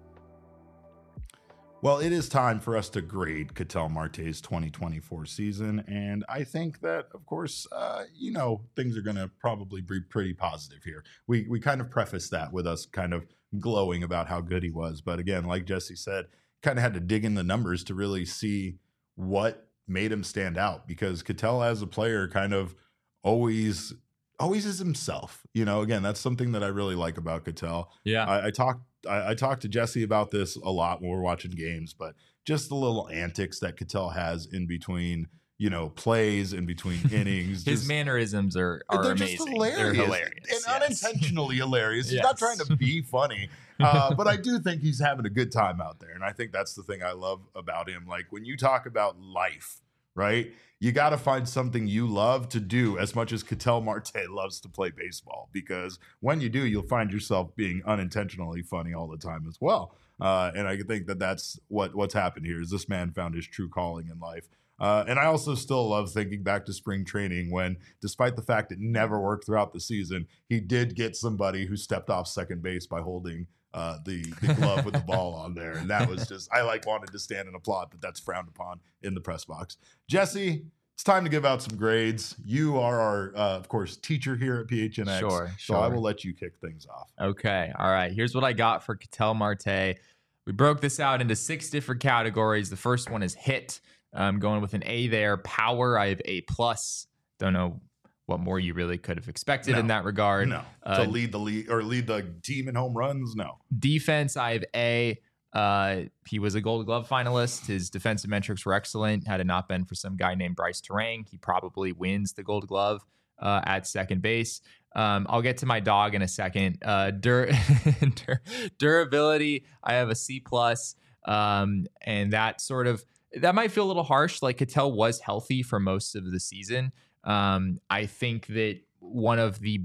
Well, it is time for us to grade Ketel Marte's 2024 season. And I think that, of course, things are going to probably be pretty positive here. We kind of preface that with us kind of glowing about how good he was. But again, like Jesse said, kind of had to dig in the numbers to really see what made him stand out, because Ketel as a player kind of always is himself. Again, that's something that I really like about Ketel. Yeah. I talked to Jesse about this a lot when we're watching games, but just the little antics that Ketel has in between, plays, in between innings. His mannerisms are they're amazing. Just hilarious. They're hilarious. And unintentionally hilarious. Yes. He's not trying to be funny, but I do think he's having a good time out there. And I think that's the thing I love about him. Like when you talk about life, right? You got to find something you love to do as much as Ketel Marte loves to play baseball, because when you do, you'll find yourself being unintentionally funny all the time as well. And I think that that's what's happened here is this man found his true calling in life. And I also still love thinking back to spring training when, despite the fact it never worked throughout the season, he did get somebody who stepped off second base by holding the glove with the ball on there. And that was just, I wanted to stand and applaud, but that's frowned upon in the press box. Jesse, it's time to give out some grades. You are our, of course, teacher here at PHNX. Sure. So I will let you kick things off. Okay. All right. Here's what I got for Ketel Marte. We broke this out into 6 different categories. The first one is hit. I'm going with an A there. Power, I have A+. Don't know what more you really could have expected in that regard. No. To lead the league or lead the team in home runs? No. Defense, I have A. He was a Gold Glove finalist. His defensive metrics were excellent. Had it not been for some guy named Bryce Terang, he probably wins the Gold Glove at second base. I'll get to my dog in a second. Durability, I have a C+. And that might feel a little harsh. Like Ketel was healthy for most of the season. I think that one of the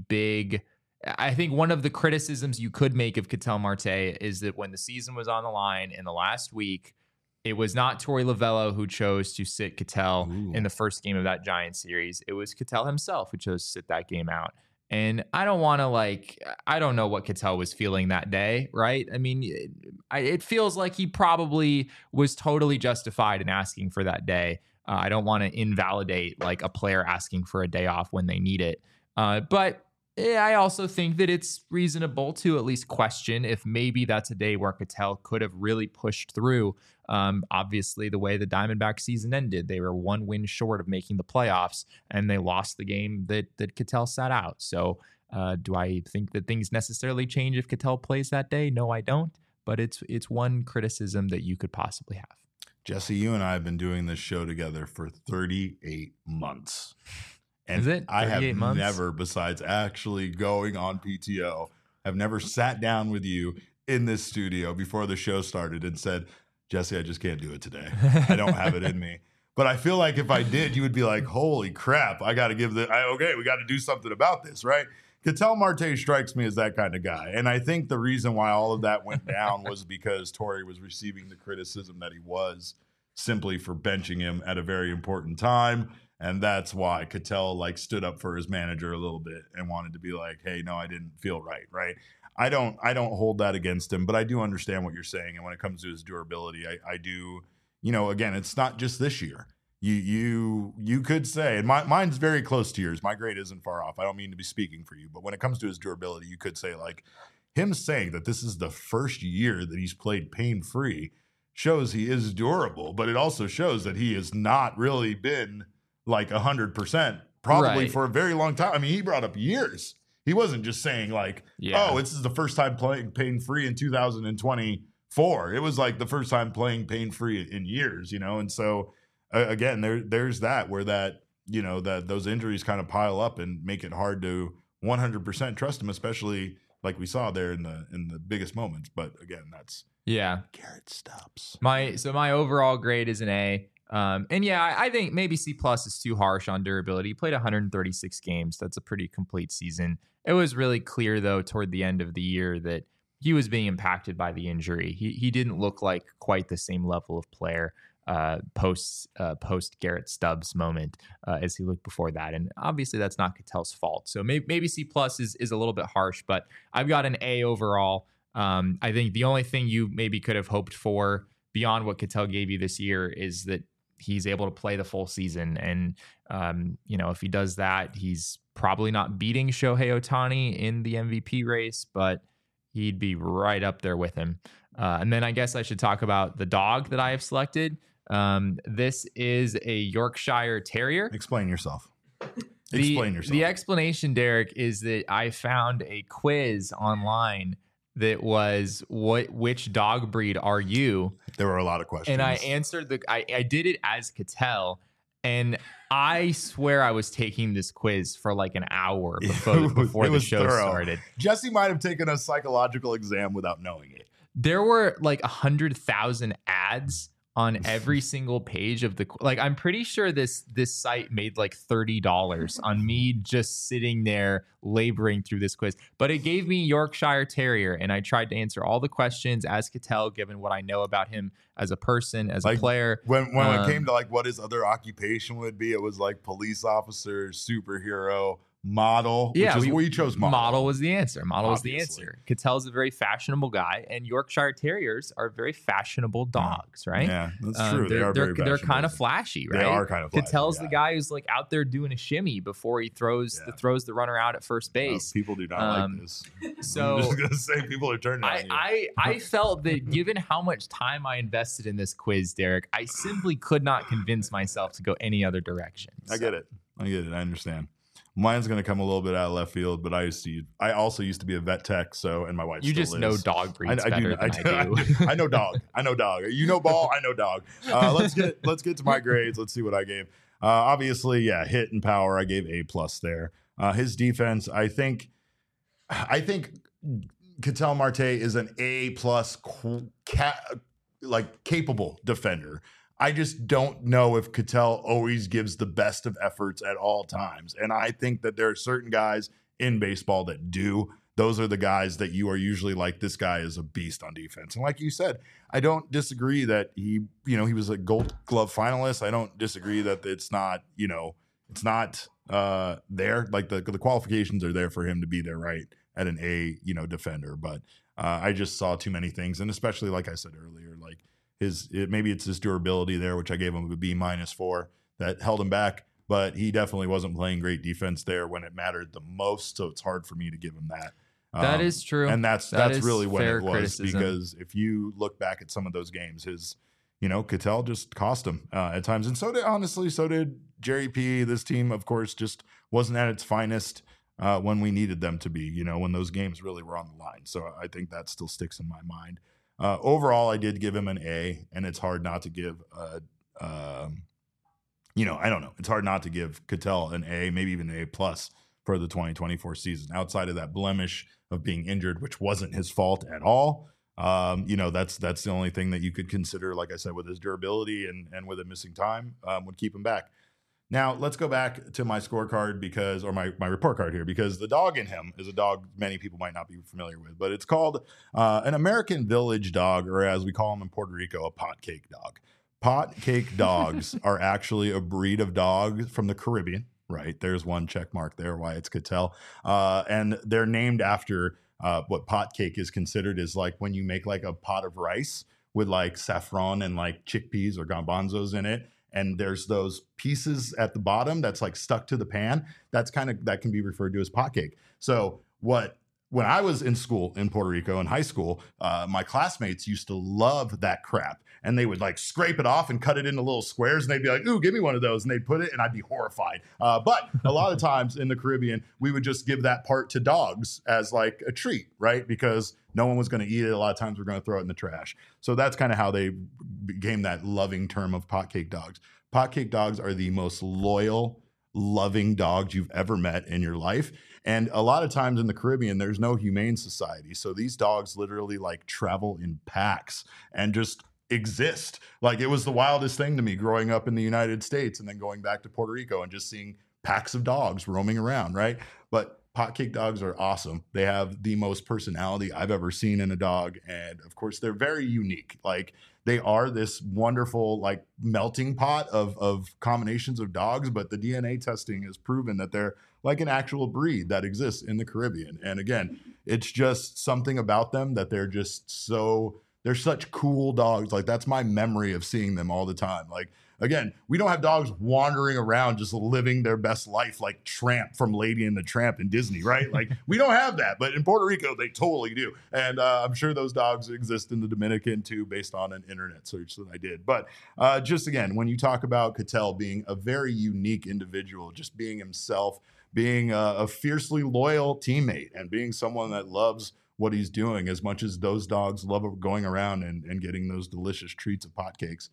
criticisms you could make of Ketel Marte is that when the season was on the line in the last week, it was not Torey Lovullo who chose to sit Ketel in the first game of that Giants series. It was Ketel himself who chose to sit that game out. And I don't know what Ketel was feeling that day, right? I mean, it feels like he probably was totally justified in asking for that day. I don't want to invalidate like a player asking for a day off when they need it. But I also think that it's reasonable to at least question if maybe that's a day where Ketel could have really pushed through. Obviously, the way the Diamondback season ended, they were 1 win short of making the playoffs, and they lost the game that Ketel sat out. So do I think that things necessarily change if Ketel plays that day? No, I don't. But it's one criticism that you could possibly have. Jesse, you and I have been doing this show together for 38 months. And is it? I have months? never, besides actually going on PTO, have never sat down with you in this studio before the show started and said, Jesse, I just can't do it today. I don't have it in me. But I feel like if I did, you would be like, holy crap, I got to we got to do something about this, right? Ketel Marte strikes me as that kind of guy. And I think the reason why all of that went down was because Torey was receiving the criticism that he was simply for benching him at a very important time. And that's why Ketel stood up for his manager a little bit and wanted to be like, hey, no, I didn't feel right? I don't hold that against him, but I do understand what you're saying. And when it comes to his durability, I do, again, it's not just this year. You could say, and mine's very close to yours. My grade isn't far off. I don't mean to be speaking for you, but when it comes to his durability, you could say him saying that this is the first year that he's played pain-free shows he is durable, but it also shows that he has not really been like 100% probably for a very long time. I mean, he brought up years. He wasn't just saying like, oh, this is the first time playing pain-free in 2024. It was like the first time playing pain-free in years, you know? And so again, there's that where that, you know, that those injuries kind of pile up and make it hard to 100% trust him, especially like we saw there in the biggest moments. But again, that's Garrett Stubbs. My overall grade is an A. And yeah, I think maybe C+ is too harsh on durability. He played 136 games. That's a pretty complete season. It was really clear though toward the end of the year that he was being impacted by the injury. He didn't look like quite the same level of player post Garrett Stubbs moment as he looked before that. And obviously that's not Ketel's fault. So maybe C+ is a little bit harsh, but I've got an A overall. I think the only thing you maybe could have hoped for beyond what Ketel gave you this year is that he's able to play the full season. And, you know, if he does that, he's probably not beating Shohei Ohtani in the MVP race, but he'd be right up there with him. And then I guess I should talk about the dog that I have selected. This is a Yorkshire Terrier. Explain yourself. Explain yourself. The explanation, Derek, is that I found a quiz online that was which dog breed are you? There were a lot of questions. And I answered I did it as Ketel, and I swear I was taking this quiz for like an hour before the show started. Jesse might have taken a psychological exam without knowing it. There were like 100,000 ads on every single page of the, like, I'm pretty sure this site made like $30 on me just sitting there laboring through this quiz. But it gave me Yorkshire Terrier, and I tried to answer all the questions as Ketel, given what I know about him as a person, as a player. When it came to like what his other occupation would be, it was like police officer, superhero, model. Yeah, we chose model. Model was the answer. Model was the answer. Ketel's a very fashionable guy, and Yorkshire Terriers are very fashionable dogs, right? Yeah, that's true. They're kind of flashy, right? They are kind of flashy. Ketel's the guy who's like out there doing a shimmy before he throws the runner out at first base. People do not like this. So I'm just gonna say people are turning on you. I felt that given how much time I invested in this quiz, Derek, I simply could not convince myself to go any other direction. I get it. I understand. Mine's going to come a little bit out of left field, but I also used to be a vet tech, and my wife. You still just is. know dog breeds better than I do. I know dog. You know ball. I know dog. Let's get to my grades. Let's see what I gave. Obviously, hit and power. I gave A+ there. His defense, I think Ketel Marte is an A+ capable defender. I just don't know if Ketel always gives the best of efforts at all times. And I think that there are certain guys in baseball that do. Those are the guys that you are usually like, this guy is a beast on defense. And like you said, I don't disagree that he was a Gold Glove finalist. I don't disagree that it's not there. Like the qualifications are there for him to be there, right, at an A, defender. But I just saw too many things. And especially, like I said earlier, like, maybe it's his durability there, which I gave him a B- for, that held him back, but he definitely wasn't playing great defense there when it mattered the most. So it's hard for me to give him that. That is true. And that's really what it was, criticism. Because if you look back at some of those games, Ketel just cost him at times. And so did Jerry P. This team, of course, just wasn't at its finest when we needed them to be, when those games really were on the line. So I think that still sticks in my mind. Overall, I did give him an A, and it's hard not to give, I don't know. It's hard not to give Ketel an A, maybe even an A+ for the 2024 season. Outside of that blemish of being injured, which wasn't his fault at all. That's the only thing that you could consider, like I said, with his durability and with it missing time, would keep him back. Now, let's go back to my scorecard or my report card here, because the dog in him is a dog many people might not be familiar with, but it's called an American Village dog, or as we call them in Puerto Rico, a pot cake dog. Pot cake dogs are actually a breed of dog from the Caribbean, right? There's one check mark there, why it's Ketel. And they're named after what pot cake is considered is like when you make like a pot of rice with like saffron and like chickpeas or garbanzos in it. And there's those pieces at the bottom that's like stuck to the pan. That can be referred to as pot cake. So what when I was in school in Puerto Rico in high school, my classmates used to love that crap. And they would like scrape it off and cut it into little squares. And they'd be like, ooh, give me one of those. And they'd put it, and I'd be horrified. But a lot of times in the Caribbean, we would just give that part to dogs as like a treat, right? Because no one was going to eat it. A lot of times we're going to throw it in the trash. So that's kind of how they became that loving term of potcake dogs. Potcake dogs are the most loyal, loving dogs you've ever met in your life. And a lot of times in the Caribbean, there's no humane society. So these dogs literally like travel in packs and just exist. Like, it was the wildest thing to me growing up in the United States and then going back to Puerto Rico and just seeing packs of dogs roaming around, right? But potcake dogs are awesome. They have the most personality I've ever seen in a dog. And of course, they're very unique. Like, they are this wonderful, like, melting pot of combinations of dogs, but the DNA testing has proven that they're like an actual breed that exists in the Caribbean. And again, it's just something about them that they're just so, they're such cool dogs. Like, that's my memory of seeing them all the time. Like, again, we don't have dogs wandering around just living their best life like Tramp from Lady and the Tramp in Disney, right? Like, we don't have that, but in Puerto Rico, they totally do. And I'm sure those dogs exist in the Dominican too, based on an internet search that I did. But just again, when you talk about Ketel being a very unique individual, just being himself, being a fiercely loyal teammate, and being someone that loves what he's doing as much as those dogs love going around and getting those delicious treats of potcakes.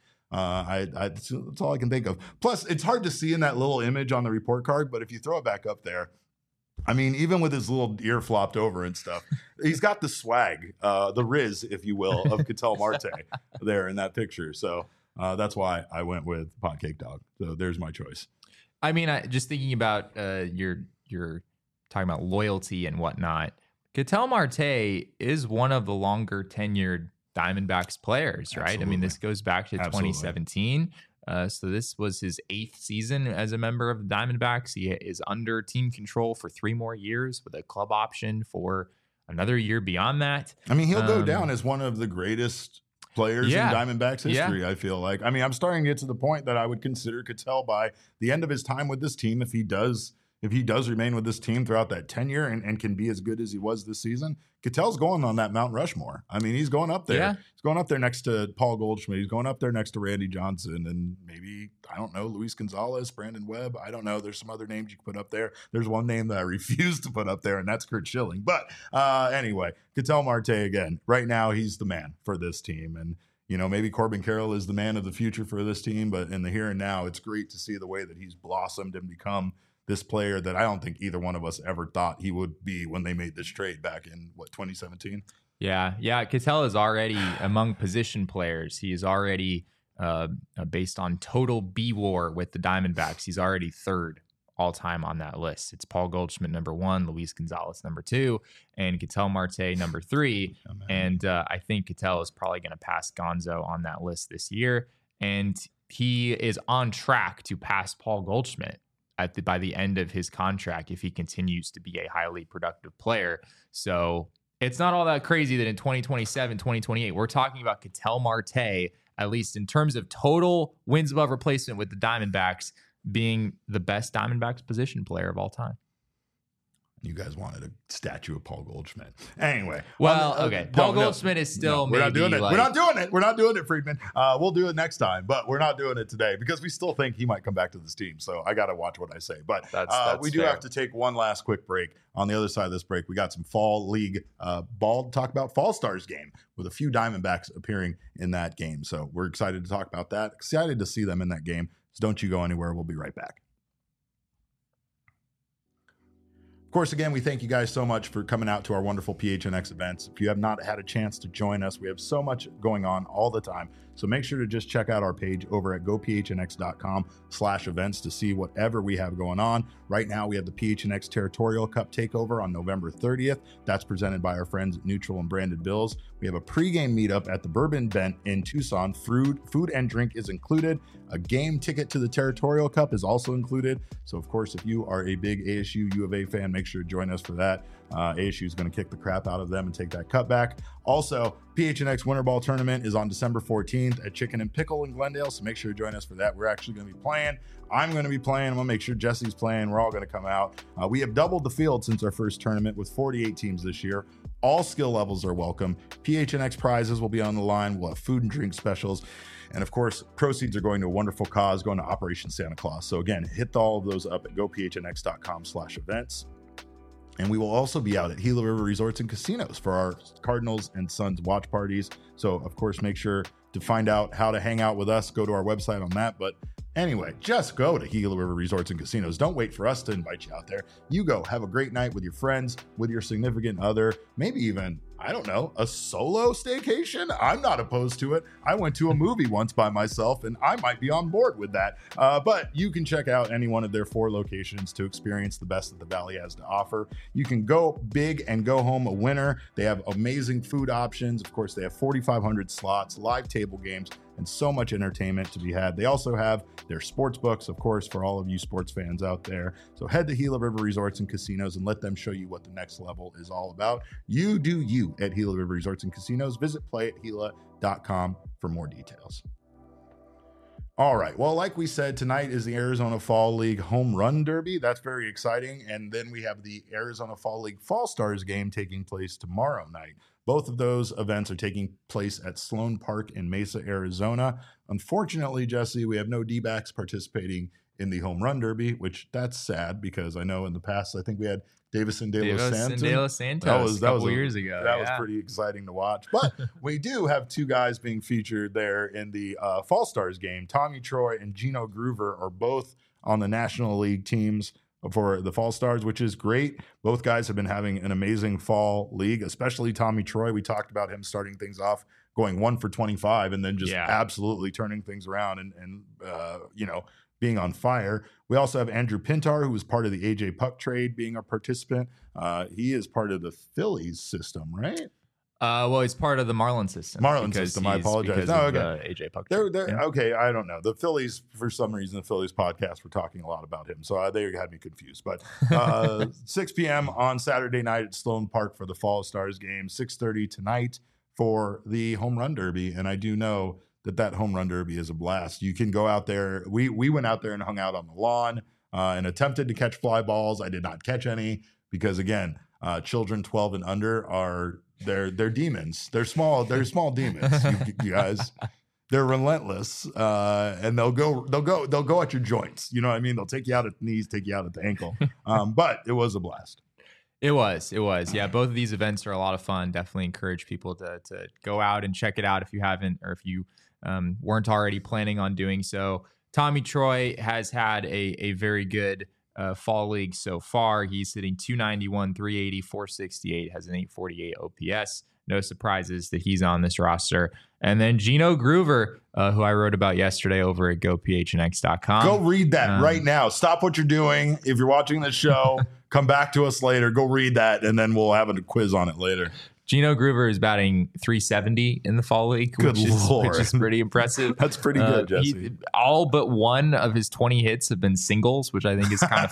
That's all I can think of. Plus, it's hard to see in that little image on the report card, but if you throw it back up there, I mean, even with his little ear flopped over and stuff, he's got the swag, the Riz, if you will, of Ketel Marte there in that picture. So that's why I went with potcake dog. So there's my choice. I mean, just thinking about you're talking about loyalty and whatnot. Ketel Marte is one of the longer tenured Diamondbacks players, right? Absolutely. I mean, this goes back to Absolutely. 2017. So this was his 8th season as a member of the Diamondbacks. He is under team control for 3 more years with a club option for another year beyond that. I mean, he'll go down as one of the greatest players in Diamondbacks history, I feel like. I mean, I'm starting to get to the point that I would consider Ketel by the end of his time with this team, if he does remain with this team throughout that tenure and can be as good as he was this season, Ketel's going on that Mount Rushmore. I mean, he's going up there. Yeah. He's going up there next to Paul Goldschmidt. He's going up there next to Randy Johnson and maybe, I don't know, Luis Gonzalez, Brandon Webb. I don't know. There's some other names you can put up there. There's one name that I refuse to put up there, and that's Curt Schilling. But anyway, Ketel Marte, again, right now he's the man for this team. And, you know, maybe Corbin Carroll is the man of the future for this team, but in the here and now, it's great to see the way that he's blossomed and become this player that I don't think either one of us ever thought he would be when they made this trade back in, 2017? Yeah. Ketel is already among position players. He is already, based on total B-WAR with the Diamondbacks, he's already 3rd all-time on that list. It's Paul Goldschmidt, number 1, Luis Gonzalez, number 2, and Ketel Marte, number 3. And I think Ketel is probably going to pass Gonzo on that list this year. And he is on track to pass Paul Goldschmidt by the end of his contract if he continues to be a highly productive player. So it's not all that crazy that in 2027, 2028, we're talking about Ketel Marte, at least in terms of total wins above replacement with the Diamondbacks, being the best Diamondbacks position player of all time. You guys wanted a statue of Paul Goldschmidt. Anyway. Well, okay. Paul Goldschmidt is still we're not doing it. Like, We're not doing it, Friedman. We'll do it next time, but we're not doing it today because we still think he might come back to this team. So I got to watch what I say. But that's we do fair. have to take one last quick break. On the other side of this break, we got some fall league ball to talk about. Fall Stars game with a few Diamondbacks appearing in that game. So we're excited to talk about that. Excited to see them in that game. So don't you go anywhere. We'll be right back. Of course, again, we thank you guys so much for coming out to our wonderful PHNX events. If you have not had a chance to join us, we have so much going on all the time. So make sure to just check out our page over at gophnx.com/events to see whatever we have going on. Right now, we have the PHNX Territorial Cup Takeover on November 30th. That's presented by our friends at Neutral and Branded Bills. We have a pregame meetup at the Bourbon Bent in Tucson. Food and drink is included. A game ticket to the Territorial Cup is also included. So, of course, if you are a big ASU U of A fan, make make sure to join us for that. ASU is going to kick the crap out of them and take that cutback. Also, PHNX Winter Ball Tournament is on December 14th at Chicken and Pickle in Glendale, so make sure to join us for that. We're actually going to be playing. I'm going to be playing. I'm going to make sure Jesse's playing. We're all going to come out. We have doubled the field since our first tournament with 48 teams this year. All skill levels are welcome. PHNX prizes will be on the line. We'll have food and drink specials. And of course, proceeds are going to a wonderful cause, going to Operation Santa Claus. So again, hit all of those up at gophnx.com/events. And we will also be out at Gila River Resorts and Casinos for our Cardinals and Suns watch parties. So, of course, make sure to find out how to hang out with us. Go to our website on that. But anyway, just go to Gila River Resorts and Casinos. Don't wait for us to invite you out there. You go. Have a great night with your friends, with your significant other, maybe even, I don't know, a solo staycation. I'm not opposed to it. I went to a movie once by myself, and I might be on board with that. But you can check out any one of their 4 locations to experience the best that the Valley has to offer. You can go big and go home a winner. They have amazing food options. Of course, they have 4,500 slots, live table games, and so much entertainment to be had. They also have their sports books, of course, for all of you sports fans out there. So head to Gila River Resorts and Casinos and let them show you what the next level is all about. You do you at Gila River Resorts and Casinos. Visit playathila.com for more details. All right. Well, like we said, tonight is the Arizona Fall League Home Run Derby. That's very exciting. And then we have the Arizona Fall League Fall Stars game taking place tomorrow night. Both of those events are taking place at Sloan Park in Mesa, Arizona. Unfortunately, Jesse, we have no D-backs participating in the Home Run Derby, which that's sad because I know in the past, I think we had Davison De Los Santos a couple years ago. That was pretty exciting to watch. But we do have 2 guys being featured there in the Fall Stars game. Tommy Troy and Gino Groover are both on the National League teams for the Fall Stars, which is great. Both guys have been having an amazing fall league, especially Tommy Troy. We talked about him starting things off, going 1 for 25, and then just absolutely turning things around and being on fire. We also have Andrew Pintar, who was part of the AJ Puck trade, being a participant. He is part of the Phillies system, right? Well, he's part of the Marlins system. I apologize. No, okay. AJ Puck. Okay, I don't know. The Phillies, for some reason, the Phillies podcast, we're talking a lot about him. So they had me confused. But 6 p.m. on Saturday night at Sloan Park for the Fall Stars game, 6:30 tonight for the Home Run Derby. And I do know that Home Run Derby is a blast. You can go out there. We went out there and hung out on the lawn and attempted to catch fly balls. I did not catch any because, again, children 12 and under are they're demons. They're small demons. You guys, they're relentless, and they'll go at your joints. You know what I mean? They'll take you out at the knees, take you out at the ankle. But it was a blast. It was. Yeah, both of these events are a lot of fun. Definitely encourage people to go out and check it out if you haven't, or if you weren't already planning on doing so. Tommy Troy has had a very good fall league so far. He's hitting 291, 380, 468, has an 848 OPS. No surprises that he's on this roster. And then Gino Groover, who I wrote about yesterday over at gophnx.com. Go read that right now. Stop what you're doing. If you're watching the show, come back to us later. Go read that, and then we'll have a quiz on it later. Gino Groover is batting 370 in the fall league, which is pretty impressive. That's pretty good, Jesse. All but one of his 20 hits have been singles, which I think is kind of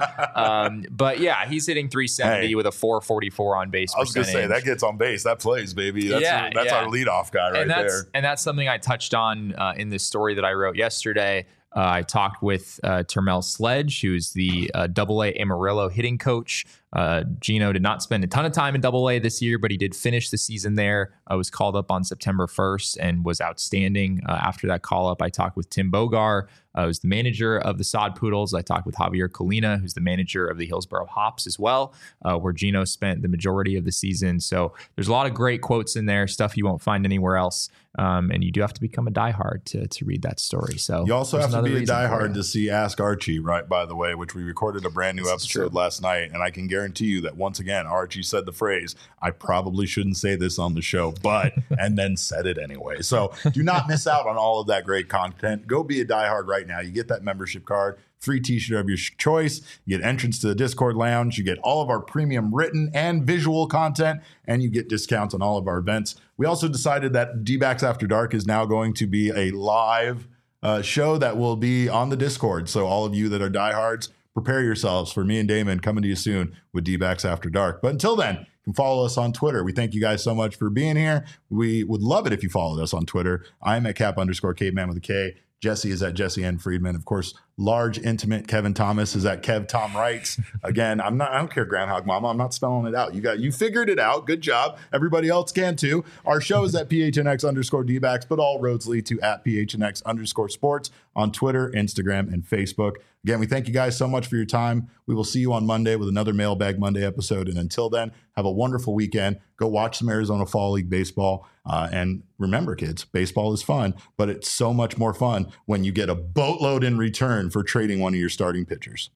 funny. But yeah, he's hitting 370 with a 444 on base percentage. I was going to say, that gets on base. That plays, baby. That's our leadoff guy right there. And that's something I touched on in this story that I wrote yesterday. I talked with Termel Sledge, who's the AA Amarillo hitting coach. Gino did not spend a ton of time in AA this year, but he did finish the season there. I was called up on September 1st and was outstanding. After that call up, I talked with Tim Bogar, who's the manager of the Sod Poodles. I talked with Javier Colina, who's the manager of the Hillsboro Hops as well, where Gino spent the majority of the season. So there's a lot of great quotes in there, stuff you won't find anywhere else. And you do have to become a diehard to read that story. So you also have to be a diehard to see Ask Archie, right? By the way, which we recorded a brand new episode last night, and I can guarantee you that once again, Archie said the phrase, "I probably shouldn't say this on the show, but," and then said it anyway. So do not miss out on all of that great content. Go be a diehard right now. You get that membership card, free t-shirt of your choice. You get entrance to the Discord lounge. You get all of our premium written and visual content, and you get discounts on all of our events. We also decided that D-Backs After Dark is now going to be a live show that will be on the Discord. So all of you that are diehards, prepare yourselves for me and Damon coming to you soon with D-backs After Dark. But until then, you can follow us on Twitter. We thank you guys so much for being here. We would love it if you followed us on Twitter. I'm at Cap_Caveman with a K. Jesse is at Jesse N. Friedman. Of course, large, intimate Kevin Thomas is at Kev Tom Wrights. Again, I don't care, Groundhog Mama. I'm not spelling it out. You figured it out. Good job. Everybody else can too. Our show is at PHNX_D-backs, but all roads lead to at PHNX_sports on Twitter, Instagram, and Facebook. Again, we thank you guys so much for your time. We will see you on Monday with another Mailbag Monday episode. And until then, have a wonderful weekend. Go watch some Arizona Fall League baseball. And remember, kids, baseball is fun, but it's so much more fun when you get a boatload in return for trading one of your starting pitchers.